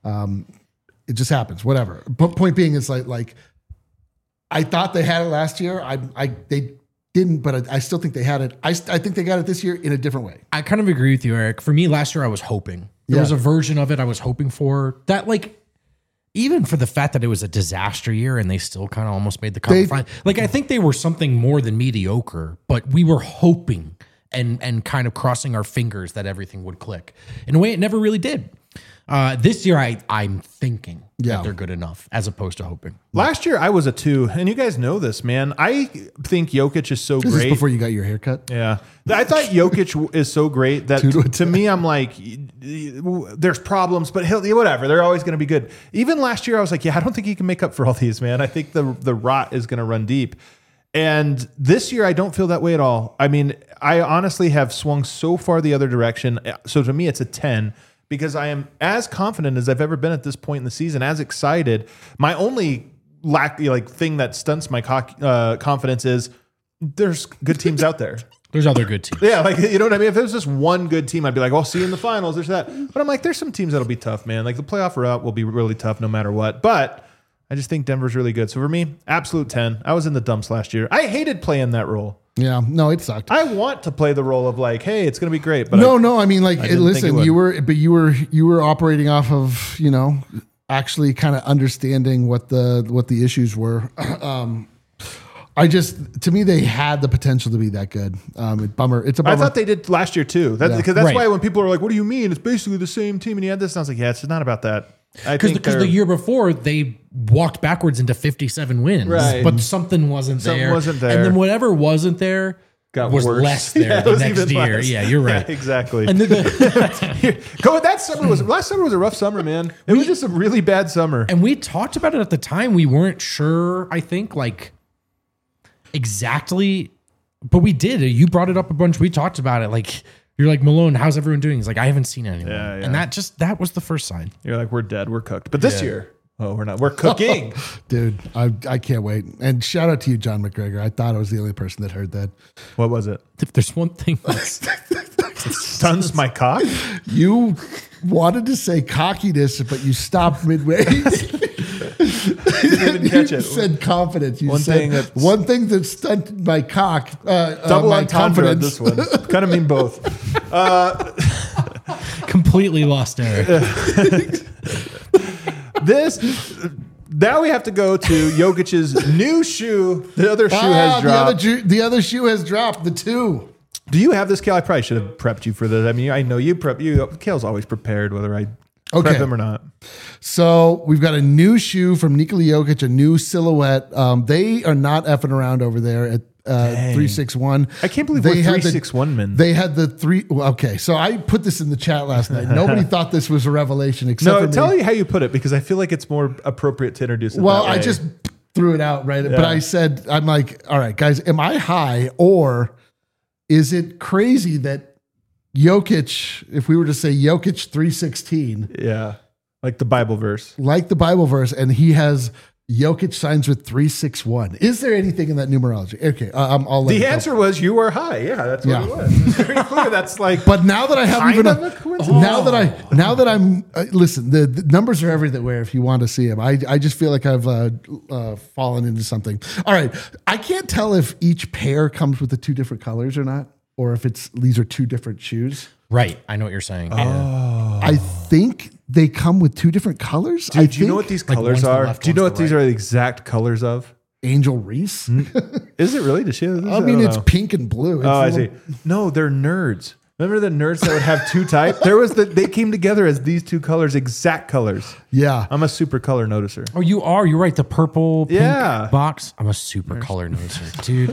It just happens, whatever. But point being, it's like I thought they had it last year. They didn't, but I still think they had it. I think they got it this year in a different way. I kind of agree with you, Eric. For me, last year I was hoping. There was a version of it I was hoping for that, like, even for the fact that it was a disaster year and they still kind of almost made the conference final. Like, I think they were something more than mediocre, but we were hoping and kind of crossing our fingers that everything would click. In a way, it never really did. This year, I'm thinking that they're good enough as opposed to hoping. Last year, I was a 2, and you guys know this, man. I think Jokic is so great. This is before you got your haircut? Yeah. I thought Jokic is so great that to me, I'm like, there's problems, but whatever. They're always going to be good. Even last year, I was like, I don't think he can make up for all these, man. I think the rot is going to run deep. And this year, I don't feel that way at all. I mean, I honestly have swung so far the other direction. So to me, it's a 10. Because I am as confident as I've ever been at this point in the season, as excited. My only thing that stunts my confidence is there's good teams out there. There's other good teams. Yeah, you know what I mean? If there's just one good team, I'd be like, well, see you in the finals, there's that. But I'm like, there's some teams that'll be tough, man. Like the playoff route will be really tough no matter what. But I just think Denver's really good. So for me, absolute 10. I was in the dumps last year. I hated playing that role. Yeah, no, it sucked. I want to play the role of like, hey, it's going to be great. But I mean, like, listen, you were operating off of, actually kind of understanding what the issues were. To me, they had the potential to be that good. Bummer. It's a bummer. I thought they did last year too. Because that's why when people are like, "What do you mean? It's basically the same team." And you had this, and I was like, "Yeah, it's not about that." Because the year before they walked backwards into 57 wins, but something wasn't there. And then whatever wasn't there was worse. Less there the next year. Less. Yeah, you're right. Yeah, exactly. And then last summer was a rough summer, man. It was just a really bad summer. And we talked about it at the time. We weren't sure, I think, like exactly, but we did. You brought it up a bunch. We talked about it. Like, you're like, Malone, how's everyone doing? He's like, I haven't seen anyone. Yeah. And that was the first sign. You're like, we're dead. We're cooked. But this year, we're not. We're cooking. Dude, I can't wait. And shout out to you, John McGregor. I thought I was the only person that heard that. What was it? If there's one thing that stuns my cock. You wanted to say cockiness, but you stopped midway. You didn't even catch it. You said confidence. You said one thing that stunted my cock. Double my entendre on this one. Kind of mean both. Completely lost Eric. Now we have to go to Jokic's new shoe. The other shoe has dropped. The other shoe has dropped. The 2. Do you have this, Kale? I probably should have prepped you for this. I mean, I know you prep. Kale's always prepared, whether I prep him or not. So we've got a new shoe from Nikola Jokic, a new silhouette. They are not effing around over there at 361. I can't believe we're 361 men. They had the 3. Okay, so I put this in the chat last night. Nobody thought this was a revelation except for me. Tell you how you put it, because I feel like it's more appropriate to introduce it. Well, I just threw it out, right? Yeah. But I said, I'm like, all right, guys, am I high, or is it crazy that Jokic, if we were to say Jokic 316, like the Bible verse, and he has Jokic signs with 361. Is there anything in that numerology? Okay, I'll let the answer was you are high. Yeah, that's what it was. It's very clear. That's like. But now that I have now that I'm listen, the numbers are everywhere. If you want to see them, I just feel like I've fallen into something. All right, I can't tell if each pair comes with the 2 different colors or not, or if these are 2 different shoes. Right, I know what you're saying. I think they come with 2 different colors. Do you know what these colors are? Do you know what these are the exact colors of? Angel Reese? Is it really? Does she? I mean, it's pink and blue. I see. No, they're nerds. Remember the nerds that would have 2 types? They came together as these 2 colors, exact colors. Yeah. I'm a super color noticer. Oh, you are? You're right. The purple pink box. I'm a super color noticer, dude.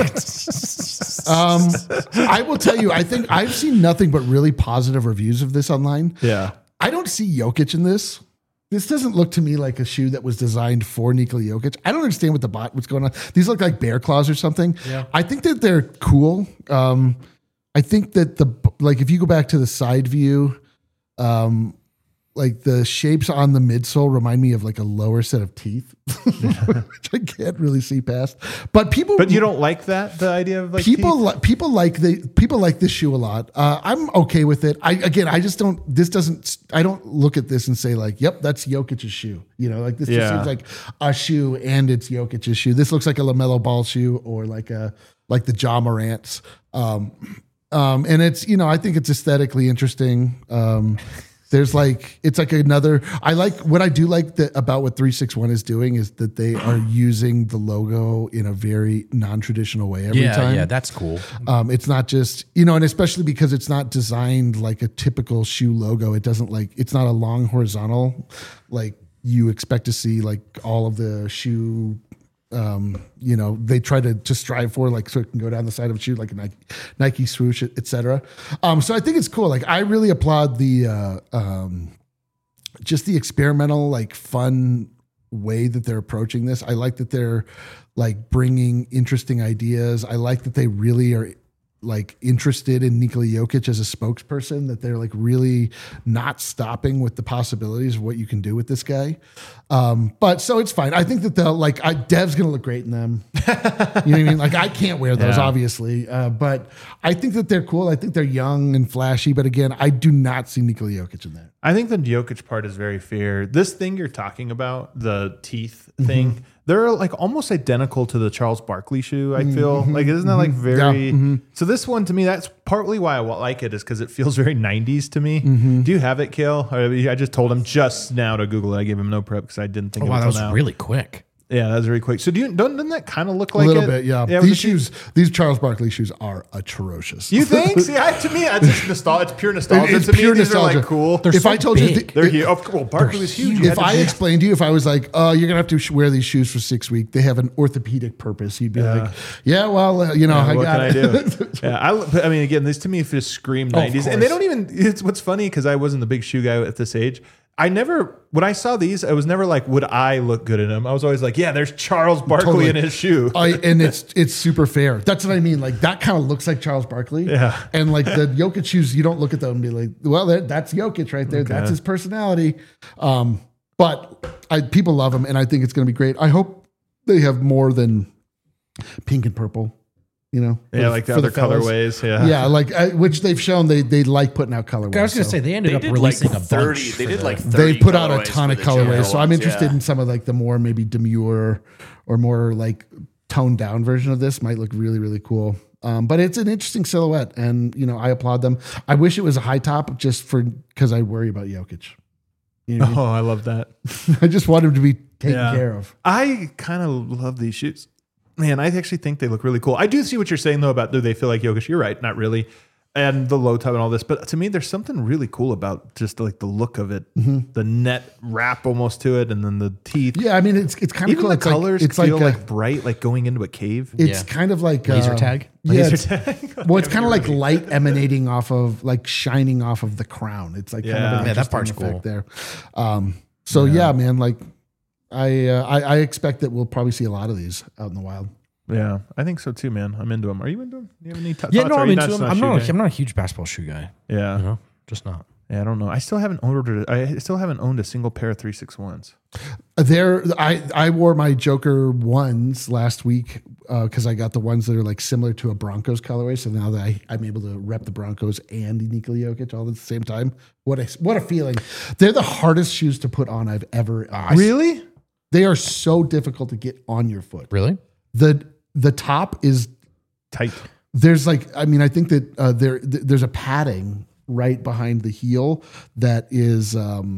I will tell you, I think I've seen nothing but really positive reviews of this online. Yeah. I don't see Jokic in this. This doesn't look to me like a shoe that was designed for Nikola Jokic. I don't understand what's going on. These look like bear claws or something. Yeah. I think that they're cool. I think that if you go back to the side view, like the shapes on the midsole remind me of like a lower set of teeth, which I can't really see past. But you don't like that, the idea of like people like this shoe a lot. I'm okay with it. I don't look at this and say like, yep, that's Jokic's shoe. You know, like this just seems like a shoe and it's Jokic's shoe. This looks like a LaMelo Ball shoe or like the Ja Morant's. And it's, I think it's aesthetically interesting. There's it's like another, what I do like about what 361 is doing is that they are using the logo in a very non-traditional way every time. Yeah, that's cool. It's not just, and especially because it's not designed like a typical shoe logo. It doesn't it's not a long horizontal, like you expect to see like all of the shoe, they try to strive for so it can go down the side of a shoe like a Nike swoosh, etc. So I think it's cool. Like I really applaud the just the experimental, fun way that they're approaching this. I like that they're bringing interesting ideas. I like that they really are interested in Nikola Jokic as a spokesperson, that they're really not stopping with the possibilities of what you can do with this guy. But so it's fine. I think that they'll Dev's going to look great in them. You know what I mean? I can't wear those obviously, but I think that they're cool. I think they're young and flashy, but again, I do not see Nikola Jokic in that. I think the Jokic part is very fair. This thing you're talking about, the teeth thing, they're almost identical to the Charles Barkley shoe. I feel isn't that very? So this one to me, that's partly why I like it, is because it feels very 90s to me. Do you have it, Kale? I just told him just now to Google it. I gave him no prep because I didn't think. Wow, that was really quick. Yeah, that's very quick. So doesn't that kind of look A like little it? bit, yeah. with These the shoes, these Charles Barkley shoes are atrocious. You think? See, to me, it's just nostalgia. It's pure nostalgia. It's to me, pure these are nostalgia. like cool. They're If so I told you, big. They're huge. Well, Barkley was huge. You if had I to- explained to you, if I was like, "Oh, you're gonna have to wear these shoes for 6 weeks," they have an orthopedic purpose. You'd be like, "Yeah, well, I what got can I it." do? Yeah, I mean, again, this to me just scream 90s, and they don't even. It's what's funny because I wasn't the big shoe guy at this age. When I saw these, I was never like, would I look good in them? I was always like, yeah, there's Charles Barkley Totally. in his shoe. And it's super fair. That's what I mean. Like that kind of looks like Charles Barkley. Yeah. And like the Jokic shoes, you don't look at them and be like, well, that's Jokic right there. Okay. That's his personality. But people love him, and I think it's going to be great. I hope they have more than pink and purple. You know, Yeah, like the for other fellas. colorways. Yeah. Yeah, like which they've shown they like putting out colorways. I was going to so. say they ended They up did releasing like a 30. bunch. They for did the- like 30 They put out a colorways ton for of the general colorways, so I'm ones, interested yeah. in some of like the more maybe demure or more like toned down version of this. Might look really really cool. But it's an interesting silhouette, and I applaud them. I wish it was a high top just because I worry about Jokic. You know what Oh, I love that. I mean? I just want him to be taken Yeah. care of. I kind of love these shoes. Man, I actually think they look really cool. I do see what you're saying though about do they feel like Jokic? You're right, not really. And the low top and all this, but to me, there's something really cool about just like the look of it, the net wrap almost to it, and then the teeth. Yeah, I mean it's kind of Even cool. the It's colors like, it's feel like, like bright, like going into a cave. it's Yeah. kind of like Laser tag? Yeah, Laser it's- tag. well, it's kind of like light emanating off of, like shining off of the crown. It's like kind Yeah. of an Yeah, that interesting part's effect cool. there. So yeah, man, like I expect that we'll probably see a lot of these out in the wild. Yeah, I think so too, man. I'm into them. Are you into them? Do you have any thoughts? Yeah, no, Are I'm you into not- them. not shoe guy? I'm not a huge basketball shoe guy. Yeah, Just not. yeah. I don't know. I still haven't owned a single pair of 361s. I wore my Joker ones last week because I got the ones that are like similar to a Broncos colorway. So now that I'm able to rep the Broncos and Nikola Jokic all at the same time, what a feeling! They're the hardest shoes to put on I've ever. Really? They are so difficult to get on your foot. Really? The top is Tight. there's like I think that there's a padding right behind the heel that is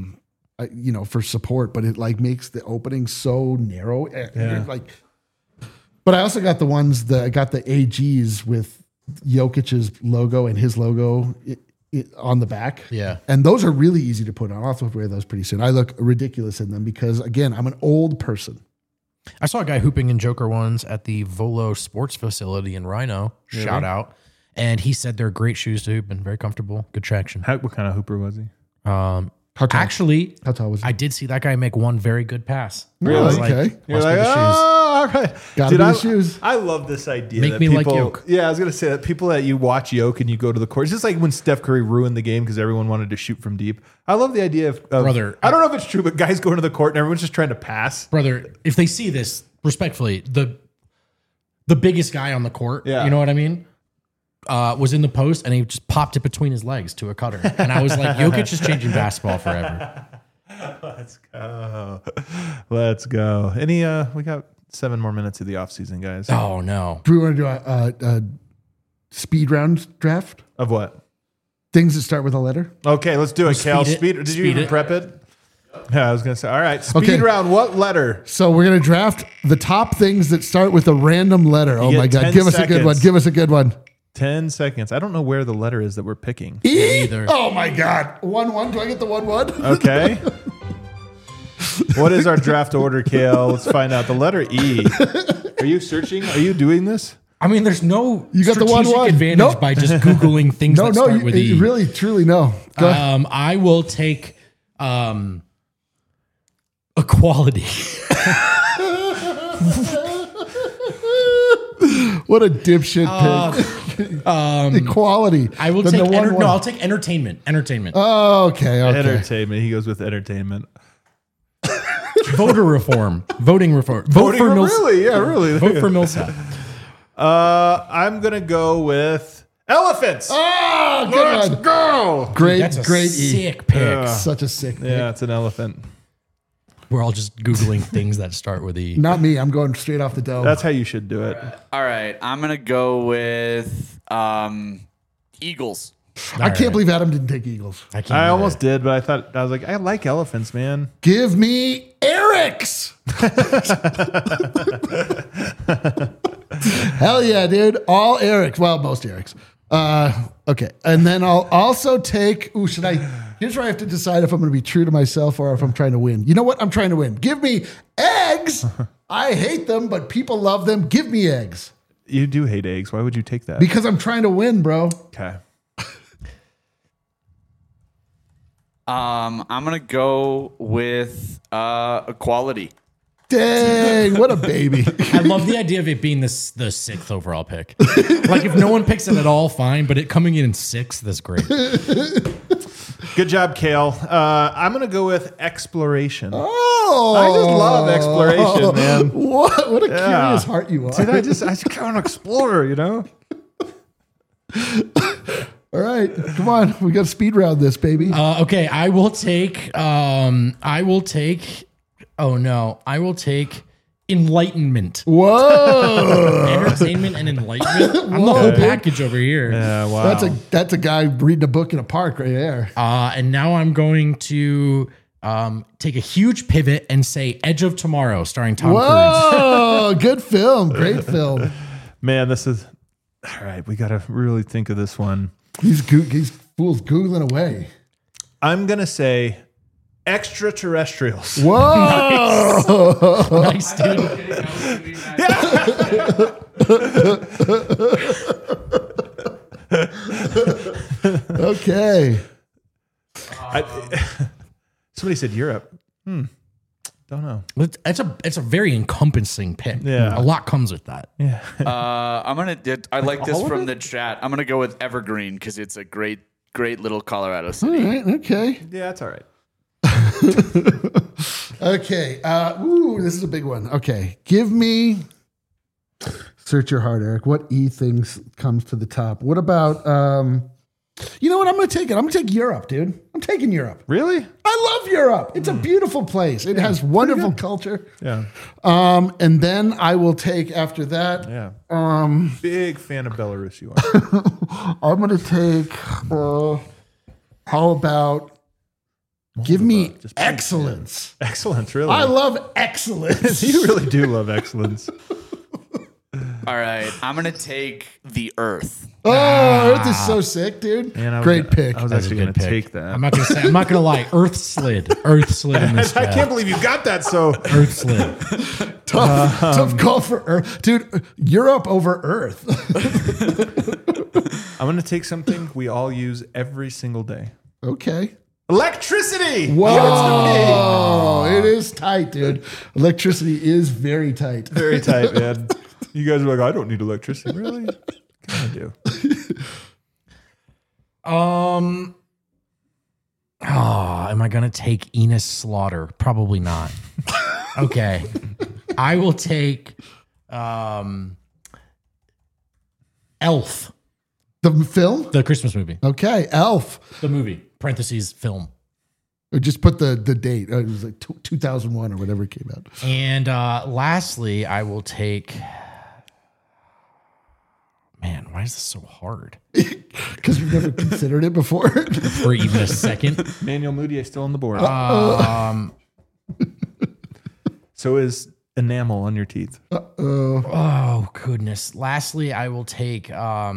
for support, but it like makes the opening so narrow. Yeah. But I also got the ones that I got the AGs with Jokic's logo and his logo on the back. Yeah. And those are really easy to put on. I'll have to wear those pretty soon. I look ridiculous in them because again, I'm an old person. I saw a guy hooping in Joker ones at the Volo Sports Facility in Rhino. Shout out. And he said they're great shoes to hoop and very comfortable, good traction. What kind of hooper was he? How tall? Actually, How tall was he? I did see that guy make one very good pass. Really? I was Okay. You're must be like, the shoes. all right. Gotta Dude, be the shoes. I love this idea. Make that me like people, Yoke. Yeah, I was going to say that people that you watch Yoke and you go to the court. It's just like when Steph Curry ruined the game because everyone wanted to shoot from deep. I love the idea of Brother, I don't know if it's true, but guys going to the court and everyone's just trying to pass. Brother, if they see this, respectfully, the biggest guy on the court, Yeah. you know what I mean? Was in the post and he just popped it between his legs to a cutter. And I was like, Jokic is changing basketball forever. Let's go. Let's go. We got 7 more minutes of the offseason, guys. Oh, no. Do we want to do a speed round draft? Of what? Things that start with a letter? Okay, let's do it, Cal. speed it. Speed. Did you Speed even it. prep it? Yeah, I was going to say. All right, speed Okay. round. What letter? So we're going to draft the top things that start with a random letter. Oh get my 10 God. Give us a good one. seconds. Give us a good one. 10 seconds. I don't know where the letter is that we're picking. E? either. Oh my God. 1-1. Do I get the 1-1? Okay. What is our draft order, Kale? Let's find out. The letter E. Are you searching? Are you doing this? I mean, there's no You got the strategic 1-1. advantage Nope. by just Googling things No, that no. start with E. Really, truly, no. Go ahead. I will take equality. What a dipshit pick. Equality. I will Then take the 1-1. I'll take entertainment. Entertainment. Okay. Entertainment. He goes with entertainment. Voter reform. Voting reform. Vote for Millsap. Really? Yeah, really. Vote for Millsap. I'm going to go with elephants. Oh, good Let's one. go. Great, That's a great E. sick pick. Such a sick pick. Yeah, it's an elephant. We're all just Googling things that start with E. Not me. I'm going straight off the dome. That's how you should do it. All right, I'm gonna go with Eagles. I can't believe Adam didn't take Eagles. I can't. I do almost did, but I was like, I like elephants, man. Give me Aaron. Eric's. Hell yeah, dude. All Eric's. Well, most Eric's. Okay. And then I'll also take, here's where I have to decide if I'm going to be true to myself or if I'm trying to win. You know what? I'm trying to win. Give me eggs. I hate them, but people love them. Give me eggs. You do hate eggs. Why would you take that? Because I'm trying to win, bro. Okay. I'm gonna go with equality. Dang, what a baby. I love the idea of it being the 6th overall pick. Like if no one picks it at all, fine. But it coming in 6th, that's great. Good job, Kale. I'm going to go with exploration. Oh, I just love exploration, man. What a curious heart you are. Dude, I just kind of want to explore, you know? All right, come on. We got to speed round this, baby. Okay, I will take enlightenment. Whoa. Entertainment and enlightenment. I'm the whole package over here. Yeah, wow. That's a guy reading a book in a park right there. And now I'm going to take a huge pivot and say Edge of Tomorrow starring Tom Cruise. Whoa, good film. Great film. Man, this is... All right, we got to really think of this one. These fools Googling away. I'm going to say extraterrestrials. Whoa. Nice, dude. Okay. Somebody said Europe. Don't know. It's a very encompassing pick. Yeah. A lot comes with that. Yeah. I like this from the chat. I'm gonna go with Evergreen because it's a great little Colorado All city. right. Okay. Yeah, that's all right. Okay. This is a big one. Okay. Give me. Search your heart, Eric. What things comes to the top? What about? You know what? I'm going to take it. I'm going to take Europe, dude. I'm taking Europe. Really? I love Europe. It's a beautiful place. It has wonderful culture. Yeah. And then I will take after that. Yeah. Big fan of Belarus, you are. I'm going to take. How about? Give me Just excellence. Excellence, really. I love excellence. You really do love excellence. All right, I'm gonna take the Earth. Oh, Earth is so sick, dude. Man, Great pick. I was That's a actually going good to pick. take that. I'm not gonna lie. Earth slid in this. I can't believe you got that. So Earth slid. Tough call for Earth. Dude, Europe over Earth. I'm going to take something we all use every single day. Okay. Electricity. Whoa. It is tight, dude. Electricity is very tight. Very tight, man. You guys are like, I don't need electricity. Really? I do. Am I gonna take Enos Slaughter? Probably not. Okay. I will take Elf, The film? the Christmas movie. Okay. Elf. The movie, parentheses, film. Or just put the date. It was like 2001 or whatever it came out. And lastly, I will take. Man, why is this so hard? Because you've never considered it before. For even a second. Manuel Mudiay still on the board. So is enamel on your teeth. Oh goodness. Lastly, I will take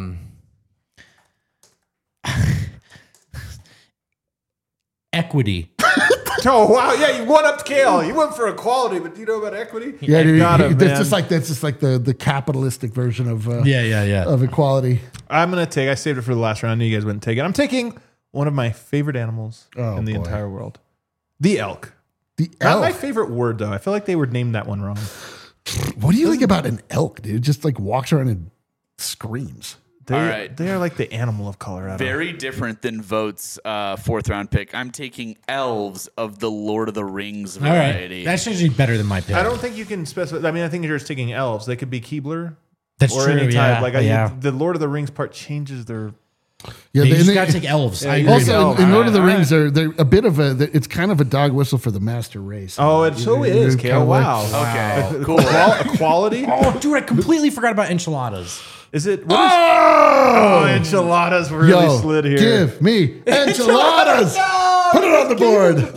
equity. Oh wow! Yeah, you won up Kale. You went for equality, but do you know about equity? Yeah, dude, Got him, that's man. just like the capitalistic version of Yeah. of equality. I'm gonna take. I saved it for the last round. I knew you guys wouldn't take it. I'm taking one of my favorite animals in the boy. entire world, the elk. The Not elk. my favorite word though. I feel like they would name that one wrong. What do you think about an elk, dude? It just like walks around and screams. They, All right. they are like the animal of Colorado. Very different than Vote's fourth round pick. I'm taking elves of the Lord of the Rings All right. variety. That's usually better than my pick. I don't think you can specify. I mean, I think you're just taking elves. They could be Keebler That's or true. any type. Like yeah. the Lord of the Rings part changes their. Yeah, You and just gotta take elves. I agree. also elves. in Lord of the All right, Rings, they're a bit of a. It's kind of a dog whistle for the master race. Oh, it so is. Kind Kale. of like- Wow. Okay, cool. Equality. Oh, dude, I completely forgot about enchiladas. Is it? What is, oh, enchiladas really Yo, slid here. give me enchiladas. Put it on the board. Board with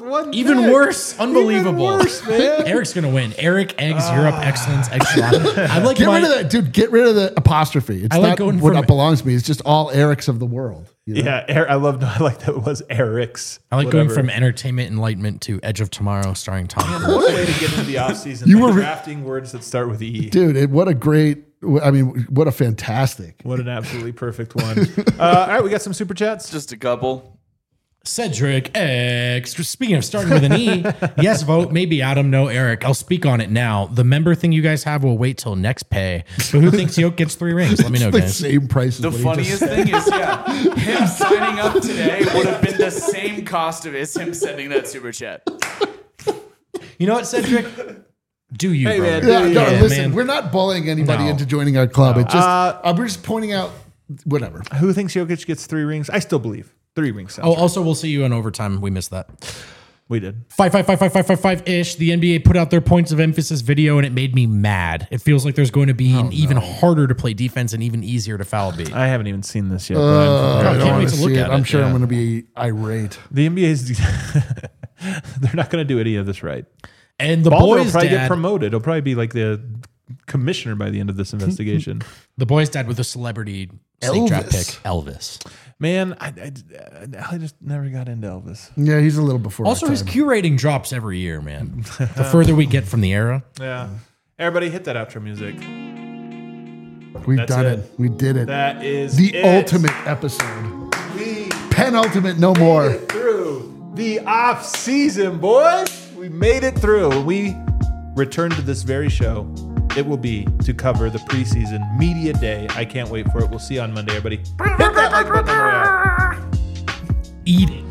one. Even pick. worse. Unbelievable. Even worse, man. Eric's going to win. Eric, Eggs, Europe, Excellence, Echelon. I like Get rid of that, dude. Get rid of the apostrophe. It's I like not going what from- belongs to me. It's just all Erics of the world. You know? Yeah, I like that it was Eric's. I like going whatever. from Entertainment Enlightenment to Edge of Tomorrow starring Tom Cruise. What a way to get into the offseason. You were- drafting words that start with E. Dude, what a fantastic. What an absolutely perfect one. All right, we got some super chats. Just a couple. Cedric X. Speaking of starting with an E, yes, vote. Maybe Adam, no Eric. I'll speak on it now. The member thing you guys have will wait till next pay. But who thinks Yoke gets 3 rings? Let me know, The guys. same price as The what he funniest just thing is, him signing up today would have been the same cost of as him sending that super chat. You know what, Cedric? Do you, Hey, man, brother? Yeah, no, Yeah, listen, man. we're not bullying anybody No. into joining our club. It's just we're just pointing out whatever. Who thinks Jokic gets 3 rings? I still believe 3 rings. Sounds Oh, right. also, we'll see you in overtime. We missed that. We did. 5-5-5-5-5-5-5-ish. The NBA put out their points of emphasis video, and it made me mad. It feels like there's going to be an even harder to play defense and even easier to foul beat. I haven't even seen this yet. I I don't can't want wait to to look see at it. I'm it, sure yeah. I'm going to be irate. the NBA's they're not going to do any of this right. And the Baldwin will boys' probably get dad, promoted. He'll probably be like the commissioner by the end of this investigation. the boys' dad with a celebrity snake draft pick, Elvis. Elvis. Man, I just never got into Elvis. Yeah, he's a little before. Also, our his time. Q rating drops every year, man. The further we get from the era. Yeah. Everybody hit that outro music. We've That's done it. it. We did it. That is The it. ultimate episode. We Penultimate, no more. made it through the off season, boys. We made it through. When we return to this very show, it will be to cover the preseason media day. I can't wait for it. We'll see you on Monday, everybody. Hit that like button. and we're out. Eat it.